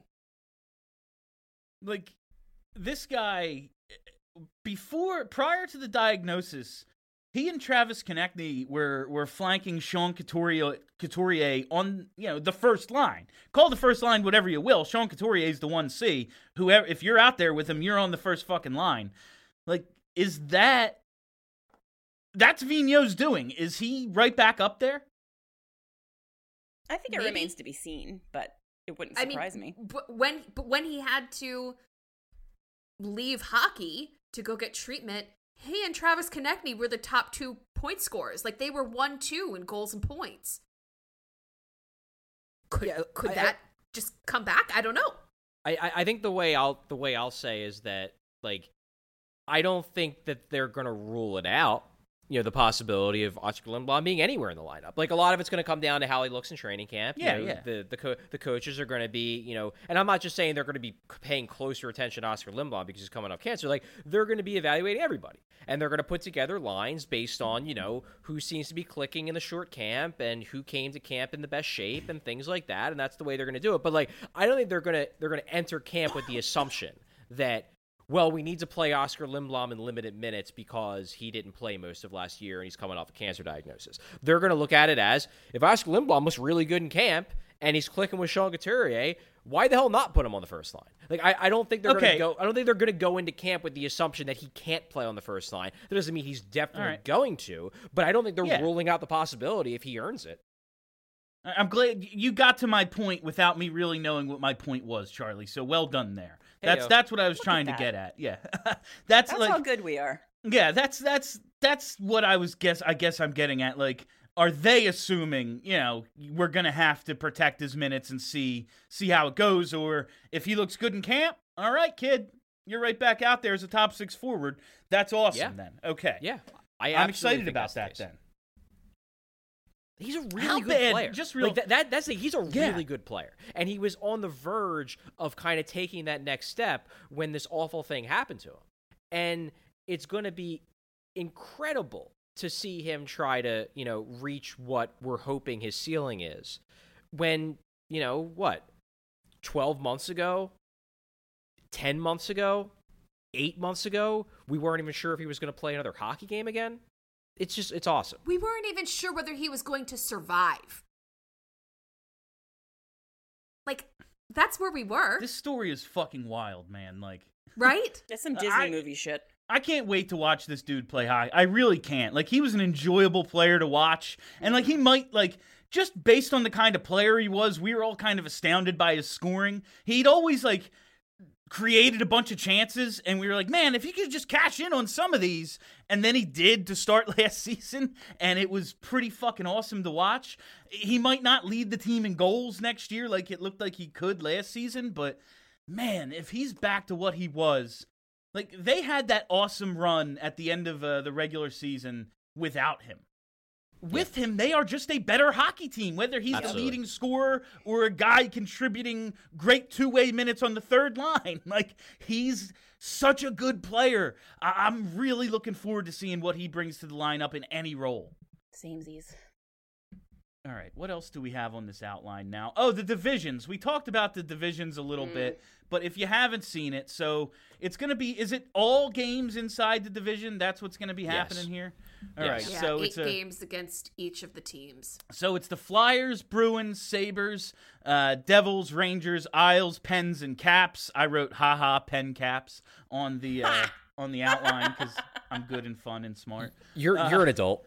Like this guy before prior to the diagnosis, he and Travis Konechny were were flanking Sean Couturier, Couturier on, you know, the first line. Call the first line whatever you will. Sean Couturier is the one C. Whoever, if you're out there with him, you're on the first fucking line. Like, is that that's Vigneault's doing? Is he right back up there? I think it Maybe. remains to be seen, but it wouldn't I surprise mean, me. But when but when he had to leave hockey to go get treatment, he and Travis Konechny were the top two point scorers. Like they were one two in goals and points. Could Yeah, could I- that just come back? I don't know. I, I I think the way I'll the way I'll say is that like I don't think that they're gonna rule it out. you know, the possibility of Oscar Lindblom being anywhere in the lineup. Like, a lot of it's going to come down to how he looks in training camp. You Yeah, know, yeah. The the co- the coaches are going to be, you know, and I'm not just saying they're going to be paying closer attention to Oscar Lindblom because he's coming off cancer. Like, they're going to be evaluating everybody, and they're going to put together lines based on, you know, who seems to be clicking in the short camp and who came to camp in the best shape and things like that. And that's the way they're going to do it. But like, I don't think they're going to they're going to enter camp with the assumption that, well, we need to play Oscar Lindblom in limited minutes because he didn't play most of last year and he's coming off a cancer diagnosis. They're going to look at it as, if Oscar Lindblom looks really good in camp and he's clicking with Sean Couturier, why the hell not put him on the first line? Like, I, I don't think they're Okay. going to go. I don't think they're going to go into camp with the assumption that he can't play on the first line. That doesn't mean he's definitely All right. going to, but I don't think they're Yeah. ruling out the possibility if he earns it. I- I'm glad you got to my point without me really knowing what my point was, Charlie. So well done there. That's Heyo. that's what I was Look trying to at get that. at. Yeah, that's, That's like how good we are. yeah, that's that's that's what I was guess I guess I'm getting at. Like, are they assuming, you know, we're gonna have to protect his minutes and see see how it goes, or if he looks good in camp, all right, kid, you're right back out there as a top six forward. That's awesome. Yeah. Then okay, Yeah, I I'm absolutely excited think about that's the that case. then. He's a really How good bad- player. just real- like that, that. That's the, he's a Yeah. really good player, and he was on the verge of kind of taking that next step when this awful thing happened to him. And it's going to be incredible to see him try to, you know, reach what we're hoping his ceiling is. When, you know, what, twelve months ago, ten months ago, eight months ago, we weren't even sure if he was going to play another hockey game again. It's just, it's awesome. We weren't even sure whether he was going to survive. Like, that's where we were, This story is fucking wild, man. Like, right? That's some Disney I- movie shit. I can't wait to watch this dude play hockey. I really can't. Like, he was an enjoyable player to watch. And, like, he might, like, just based on the kind of player he was, we were all kind of astounded by his scoring. He'd always, like, created a bunch of chances, and we were like, man, if he could just cash in on some of these. And then he did to start last season, and it was pretty fucking awesome to watch. He might not lead the team in goals next year like it looked like he could last season, but, man, if he's back to what he was... Like, they had that awesome run at the end of uh, the regular season without him. With him, they are just a better hockey team, whether he's Absolutely. the leading scorer or a guy contributing great two-way minutes on the third line. Like, he's such a good player. I- I'm really looking forward to seeing what he brings to the lineup in any role. Samesies. All right, what else do we have on this outline now? Oh, the divisions. We talked about the divisions a little Mm. bit, but if you haven't seen it, so it's going to be, is it all games inside the division? That's what's going to be happening Yes. here? All Yes. right, Yeah, so eight it's a, games against each of the teams. so it's the Flyers, Bruins, Sabres, uh, Devils, Rangers, Isles, Pens, and Caps. I wrote haha pen caps on the uh, on the outline because I'm good and fun and smart. You're Uh, you're an adult.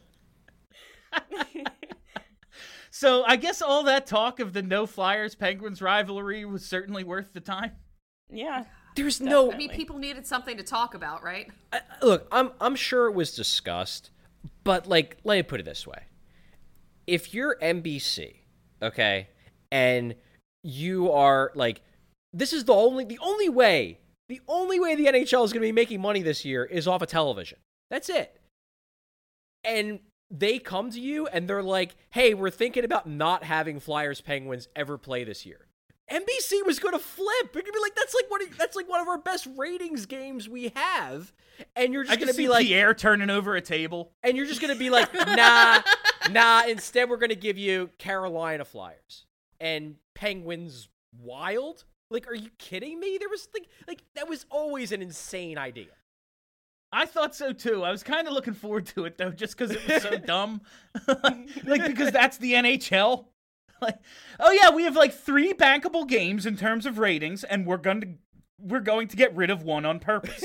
So I guess all that talk of the no Flyers Penguins rivalry was certainly worth the time. Yeah. There's no I mean, people needed something to talk about, right? I- look, I'm I'm sure it was discussed, but like, let me put it this way: if you're N B C, okay, and you are like, this is the only the only way the only way the N H L is going to be making money this year is off of television. That's it. And they come to you and they're like, "Hey, we're thinking about not having Flyers Penguins ever play this year." N B C was going to flip. They're going to be like, "That's like one of, that's like one of our best ratings games we have," and you're I just can going to see be like, Pierre turning over a table. and you're just going to be like, "Nah, nah." Instead, we're going to give you Carolina Flyers and Penguins Wild. Like, are you kidding me? There was like, like that was always an insane idea. I thought so too. I was kind of looking forward to it though, just because it was so dumb. Like, because that's the N H L. Like, oh yeah, we have like three bankable games in terms of ratings, and we're going to we're going to get rid of one on purpose.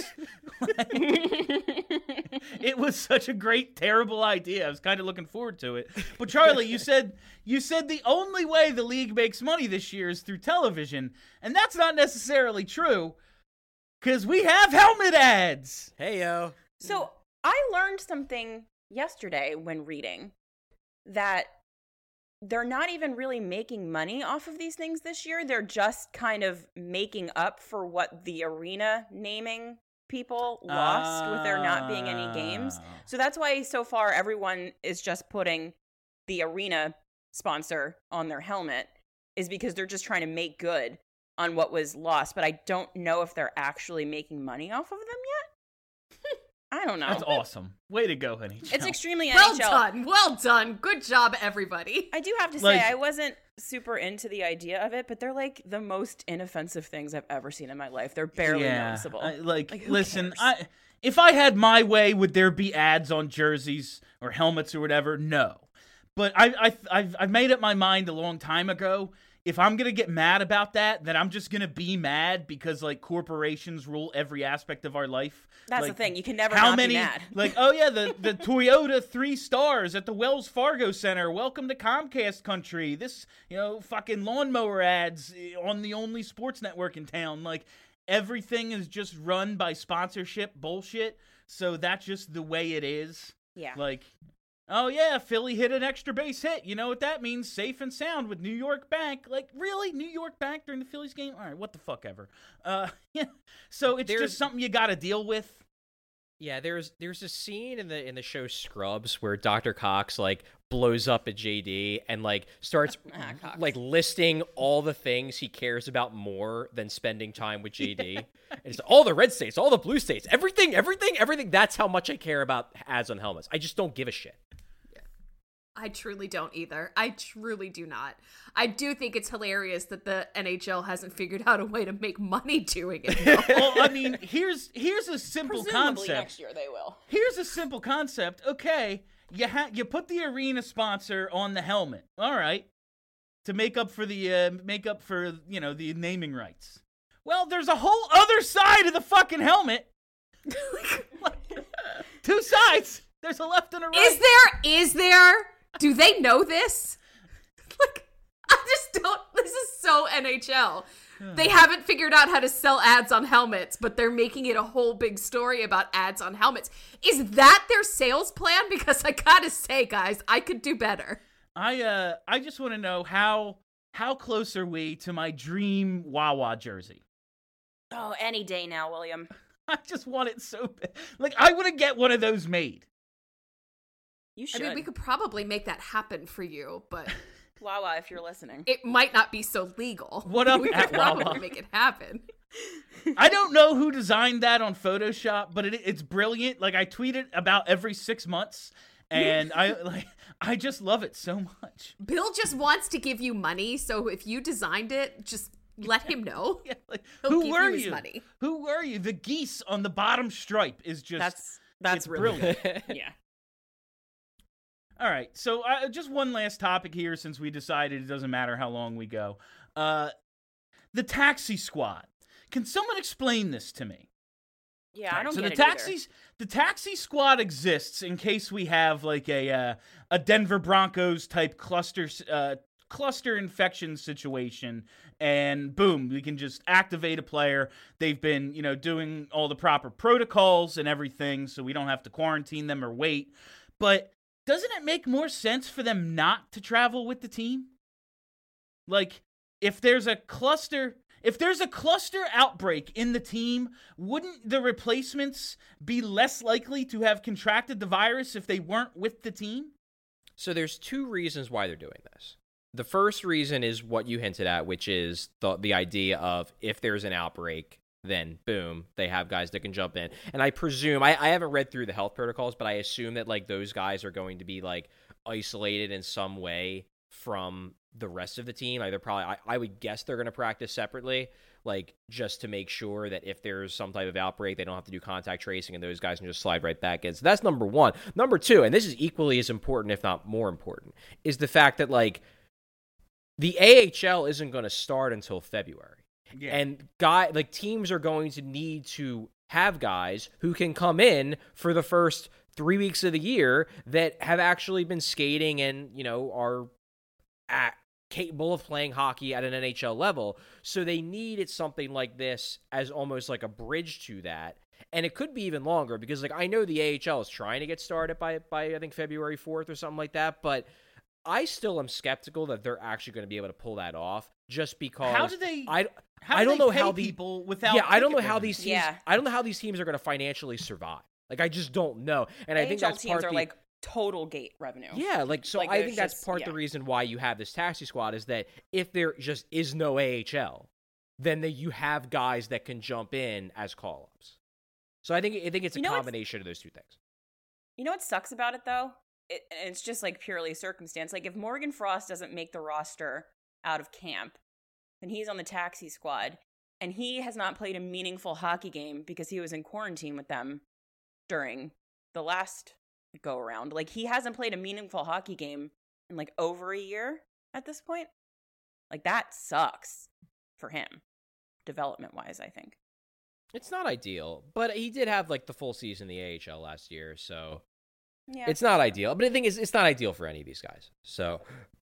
It was such a great, terrible idea. I was kind of looking forward to it. But Charlie, you said you said the only way the league makes money this year is through television, and that's not necessarily true. Because we have helmet ads. Hey yo, So I learned something yesterday when reading that they're not even really making money off of these things this year. They're just kind of making up for what the arena naming people lost with there not being any games. So that's why so far everyone is just putting the arena sponsor on their helmet, is because they're just trying to make good on what was lost. But I don't know if they're actually making money off of them yet. I don't know. That's awesome. Way to go, N H L. It's extremely Well N H L. done. Well done. Good job, everybody. I do have to say, Like- I wasn't super into the idea of it, but they're like the most inoffensive things I've ever seen in my life. They're barely yeah, noticeable. I- like, Like, who listen, cares? I if I had my way, would there be ads on jerseys or helmets or whatever? No. But I, I, I've, I've made up my mind a long time ago. If I'm going to get mad about that, then I'm just going to be mad because, like, corporations rule every aspect of our life. That's Like, the thing. You can never how not many, be mad. like, oh, yeah, the, the Toyota three stars at the Wells Fargo Center. Welcome to Comcast country. This, you know, fucking lawnmower ads on the only sports network in town. Like, everything is just run by sponsorship bullshit. So that's just the way it is. Yeah. Like, oh, yeah, Philly hit an extra base hit. You know what that means? Safe and sound with New York Bank. Like, really? New York Bank during the Phillies game? All right, what the fuck ever. Uh, yeah. So it's There's- just something you got to deal with. Yeah, there's there's a scene in the in the show Scrubs where Doctor Cox like blows up at J D and like starts Ah, Cox. like listing all the things he cares about more than spending time with J D. And it's all the red states, all the blue states, everything, everything, everything. That's how much I care about ads on helmets. I just don't give a shit. I truly don't either. I truly do not. I do think it's hilarious that the N H L hasn't figured out a way to make money doing it. though. Well, I mean, here's here's a simple Presumably concept. next year they will. Here's a simple concept. Okay, you ha- you put the arena sponsor on the helmet. All right, to make up for the uh, make up for you know the naming rights. Well, there's a whole other side of the fucking helmet. Two sides. There's a left and a right. Is there? Is there? Do they know this? Like, I just don't. This is so N H L. They haven't figured out how to sell ads on helmets, but they're making it a whole big story about ads on helmets. Is that their sales plan? Because I gotta say, guys, I could do better. I uh I just want to know how how close are we to my dream Wawa jersey? Oh, any day now, William. I just want it so bad. Like, I want to get one of those made. You I should. mean, we could probably make that happen for you, but Wawa, if you're listening. it might not be so legal. What up we could at probably Wawa? make it happen. I don't know who designed that on Photoshop, but it, it's brilliant. Like, I tweet it about every six months, and I like I just love it so much. Bill just wants to give you money, so if you designed it, just let him know. Yeah, like, He'll who give were you his you? money. Who were you? The geese on the bottom stripe is just That's that's it's really brilliant. yeah. All right, so uh, just one last topic here, since we decided it doesn't matter how long we go. Uh, the taxi squad. Can someone explain this to me? Yeah, I don't so get the it taxis, the taxi squad exists in case we have like a uh, a Denver Broncos type cluster uh, cluster infection situation, and boom, we can just activate a player. They've been, you know, doing all the proper protocols and everything, so we don't have to quarantine them or wait. But doesn't it make more sense for them not to travel with the team? Like, if there's a cluster, if there's a cluster outbreak in the team, wouldn't the replacements be less likely to have contracted the virus if they weren't with the team? So there's two reasons why they're doing this. The first reason is what you hinted at, which is the the idea of if there's an outbreak, then boom, they have guys that can jump in. And I presume, I, I haven't read through the health protocols, but I assume that like those guys are going to be like isolated in some way from the rest of the team. Like they're probably, I, I would guess they're going to practice separately, like just to make sure that if there's some type of outbreak, they don't have to do contact tracing and those guys can just slide right back in. So that's number one. Number two, and this is equally as important, if not more important, is the fact that like the A H L isn't going to start until February. Yeah. And guy like teams are going to need to have guys who can come in for the first three weeks of the year that have actually been skating and, you know, are at, capable of playing hockey at an N H L level. So they needed something like this as almost like a bridge to that. And it could be even longer because like I know the A H L is trying to get started by by I think February fourth or something like that, but I still am skeptical that they're actually going to be able to pull that off just because. How do they? I, how I do don't they know pay how the people without. yeah, I don't know ticket how revenue? these teams. Yeah. I don't know how these teams are going to financially survive. Like, I just don't know, and I think A H L that's teams part are the, like total gate revenue. Yeah, like so. Like, I there's think that's just- part yeah. the reason why you have this taxi squad is that if there just is no A H L, then the, you have guys that can jump in as call-ups. So I think I think it's a You know what's- combination of those two things. You know what sucks about it though? It, it's just like purely circumstance. Like if Morgan Frost doesn't make the roster out of camp, then he's on the taxi squad, and he has not played a meaningful hockey game because he was in quarantine with them during the last go around. Like he hasn't played a meaningful hockey game in like over a year at this point. Like that sucks for him, development wise, I think. It's not ideal, but he did have like the full season in the A H L last year, so Yeah. it's not ideal. But the thing is, it's not ideal for any of these guys. So,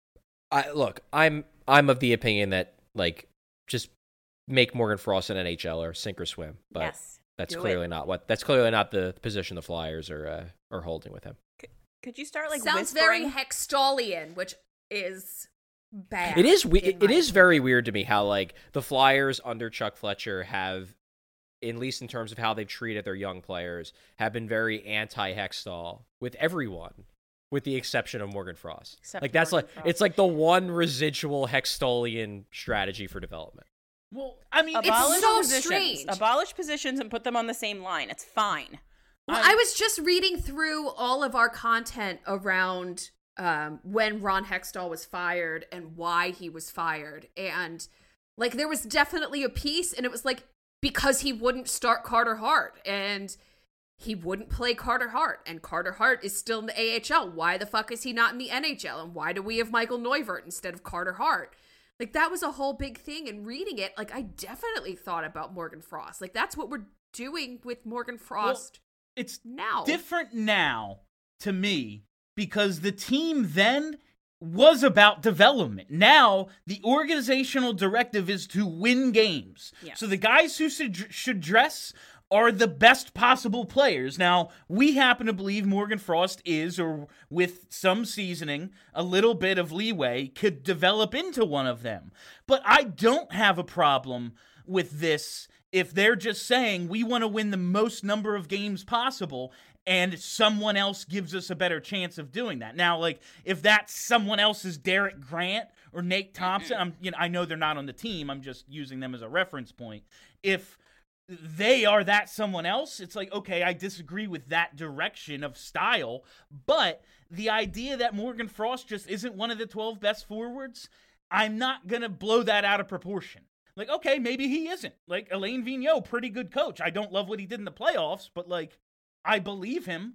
I look, I'm I'm of the opinion that like just make Morgan Frost an N H L or sink or swim. But yes. that's do clearly it. not what that's clearly not the position the Flyers are uh, are holding with him. Could you start like Sounds whispering? very Hextallian, which is bad. It is we- in it, my it is opinion. very weird to me how like the Flyers under Chuck Fletcher have, at least in terms of how they've treated their young players, have been very anti-Hextall with everyone, with the exception of Morgan Frost. Except like that's Morgan like Frost. it's like the one residual Hextallian strategy for development. Well, I mean, It's Abolish so positions. strange. Abolish positions and put them on the same line. It's fine. Well, I was just reading through all of our content around um, when Ron Hextall was fired and why he was fired. And, like, there was definitely a piece, and it was like, because he wouldn't start Carter Hart, and he wouldn't play Carter Hart, and Carter Hart is still in the A H L. Why the fuck is he not in the N H L? And why do we have Michael Neuvert instead of Carter Hart? Like, that was a whole big thing. And reading it, like, I definitely thought about Morgan Frost. Like, that's what we're doing with Morgan Frost. it's Now. different now to me because the team then was about development. Now the organizational directive is to win games. Yes. So the guys who should, should dress are the best possible players. Now, we happen to believe Morgan Frost is, or with some seasoning, a little bit of leeway, could develop into one of them. But I don't have a problem with this if they're just saying we want to win the most number of games possible and someone else gives us a better chance of doing that. Now, like, if that someone else is Derek Grant or Nate Thompson, I'm, you know, I know they're not on the team. I'm just using them as a reference point. If they are that someone else, it's like, okay, I disagree with that direction of style, but the idea that Morgan Frost just isn't one of the twelve best forwards, I'm not going to blow that out of proportion. Like, okay, maybe he isn't. Like, Alain Vigneault, pretty good coach. I don't love what he did in the playoffs, but, like, I believe him.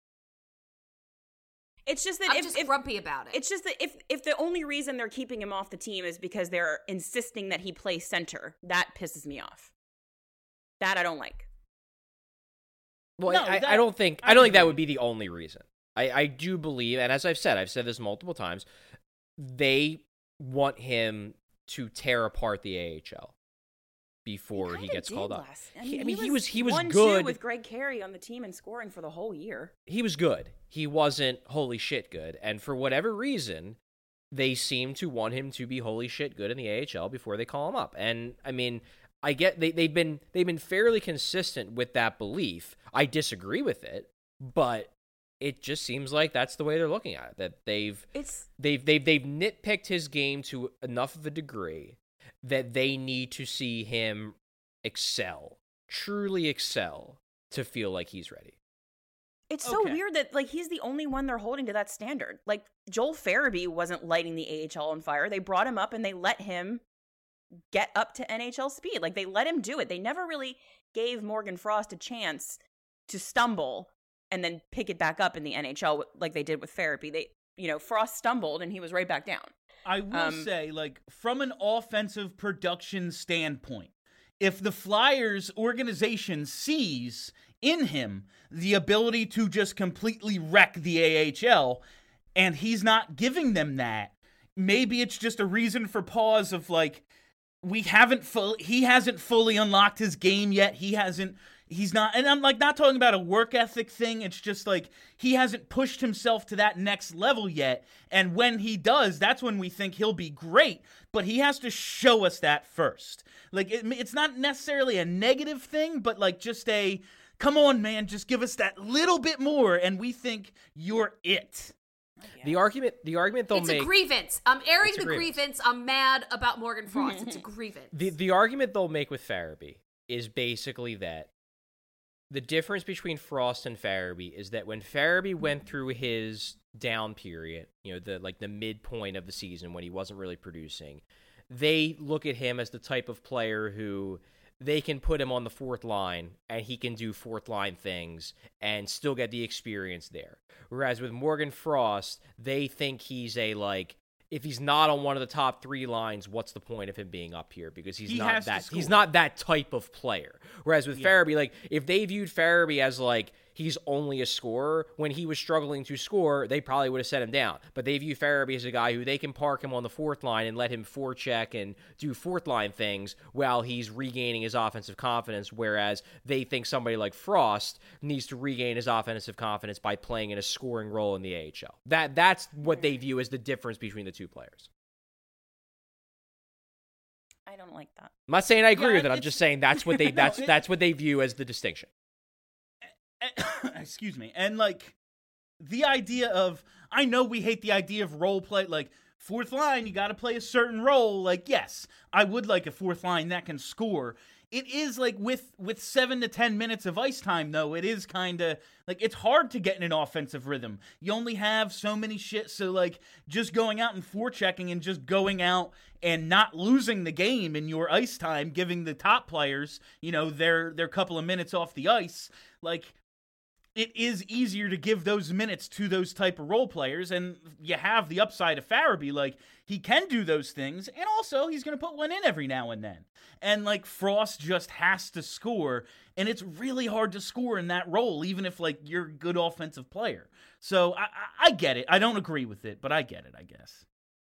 It's just that I'm if, just if grumpy about it. it's just that if if the only reason they're keeping him off the team is because they're insisting that he play center, that pisses me off. That I don't like. Well, No, I, that- I don't think I I don't think that agree. would be the only reason. I, I do believe, and as I've said, I've said this multiple times, they want him to tear apart the A H L before he kinda gets did called up. last- He- I mean, he was he was one, two good. with Greg Carey on the team and scoring for the whole year. He was good. He wasn't holy shit good, and for whatever reason, they seem to want him to be holy shit good in the A H L before they call him up. And I mean, I get they they've been they've been fairly consistent with that belief. I disagree with it, but it just seems like that's the way they're looking at it. That they've It's they've they've they've nitpicked his game to enough of a degree that they need to see him excel, truly excel, to feel like he's ready. it's so Okay. weird that like he's the only one they're holding to that standard. Like Joel Farabee wasn't lighting the A H L on fire. They brought him up and they let him get up to N H L speed. Like they let him do it. They never really gave Morgan Frost a chance to stumble and then pick it back up in the N H L like they did with Farabee. They, you know, Frost stumbled and he was right back down. I will Um, say, like, from an offensive production standpoint, if the Flyers organization sees in him the ability to just completely wreck the A H L, and he's not giving them that, maybe it's just a reason for pause of, like, we haven't full, he hasn't fully unlocked his game yet. He hasn't he's not, and I'm like not talking about a work ethic thing. It's just like he hasn't pushed himself to that next level yet. And when he does, that's when we think he'll be great. But he has to show us that first. Like it, it's not necessarily a negative thing, but like just a, come on, man, just give us that little bit more, and we think you're it. The argument, the argument they'll it's make. It's a grievance. I'm airing It's the a grievance. grievance. I'm mad about Morgan Frost. It's a grievance. The the argument they'll make with Farabee is basically that the difference between Frost and Farabee is that when Farabee went through his down period, you know, the like the midpoint of the season when he wasn't really producing, they look at him as the type of player who they can put him on the fourth line and he can do fourth line things and still get the experience there. Whereas with Morgan Frost, they think he's a like, if he's not on one of the top three lines, what's the point of him being up here? Because he's He not has to that score. he's not that type of player. Whereas with Yeah. Farabee, like if they viewed Farabee as like he's only a scorer, when he was struggling to score, they probably would have set him down. But they view Farabee as a guy who they can park him on the fourth line and let him forecheck and do fourth line things while he's regaining his offensive confidence, whereas they think somebody like Frost needs to regain his offensive confidence by playing in a scoring role in the A H L. That that's what they view as the difference between the two players. I don't like that. I'm not saying I agree Yeah, with it. I'm it's- just saying that's what they that's No, it- that's what they view as the distinction. Excuse me. And like the idea of, I know we hate the idea of role play, like fourth line, you got to play a certain role. Like, yes, I would like a fourth line that can score. It is like with with seven to ten minutes of ice time, though, it is kind of like it's hard to get in an offensive rhythm. You only have so many shit. So like just going out and forechecking and just going out and not losing the game in your ice time, giving the top players, you know, their their couple of minutes off the ice, like it is easier to give those minutes to those type of role players, and you have the upside of Farabee. Like, he can do those things, and also he's going to put one in every now and then. And, like, Frost just has to score, and it's really hard to score in that role, even if, like, you're a good offensive player. So, I, I, I get it. I don't agree with it, but I get it, I guess.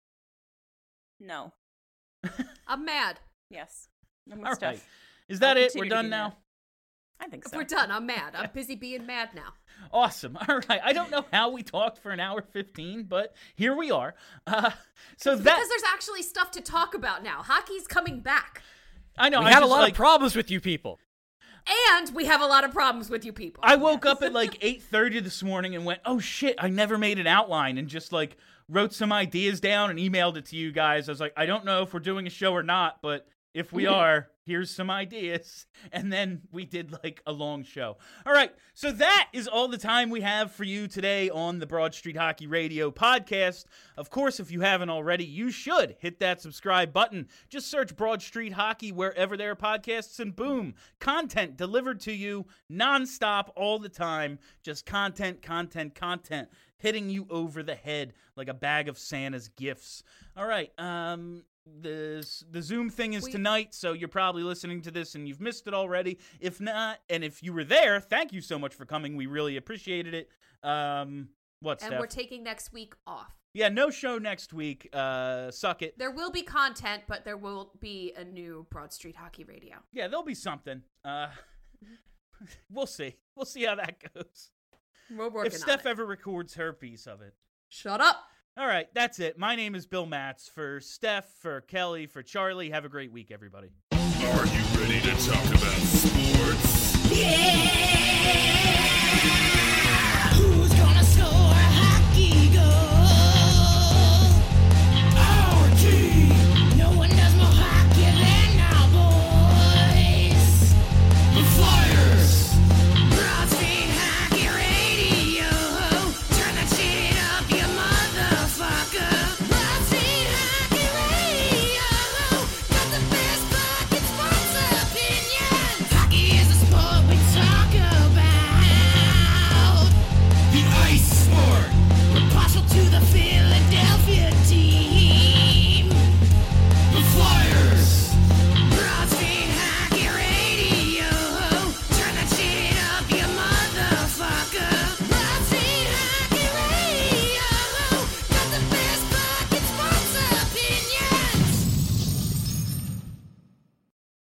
No. I'm mad. Yes. I'm with All Steph. right. Is that I'll it? We're continue to done be now? mad. I think If so. we're done, I'm mad. I'm busy being mad now. Awesome. All right. I don't know how we talked for an hour fifteen, but here we are. Uh, so that Because there's actually stuff to talk about now. Hockey's coming back. I know We I had a just, lot like, of problems with you people. And we have a lot of problems with you people. I woke up at like eight thirty this morning and went, oh shit, I never made an outline, and just like wrote some ideas down and emailed it to you guys. I was like, I don't know if we're doing a show or not, but if we are, here's some ideas. And then we did like a long show. All right, so that is all the time we have for you today on the Broad Street Hockey Radio podcast. Of course, if you haven't already, you should hit that subscribe button. Just search Broad Street Hockey wherever there are podcasts, and boom, content delivered to you nonstop all the time. Just content, content, content, hitting you over the head like a bag of Santa's gifts. All right, um... The the Zoom thing is We- tonight, so you're probably listening to this and you've missed it already. If not, and if you were there, thank you so much for coming. We really appreciated it. Um, what, and Steph? we're taking next week off. Yeah, no show next week. Uh, suck it. There will be content, but there will be a new Broad Street Hockey Radio. Yeah, there'll be something. Uh, we'll see. We'll see how that goes. We're working If Steph on it. ever records her piece of it. Shut up. All right, that's it. My name is Bill Matz. For Steph, for Kelly, for Charlie, have a great week, everybody. Are you ready to talk about sports? Yeah!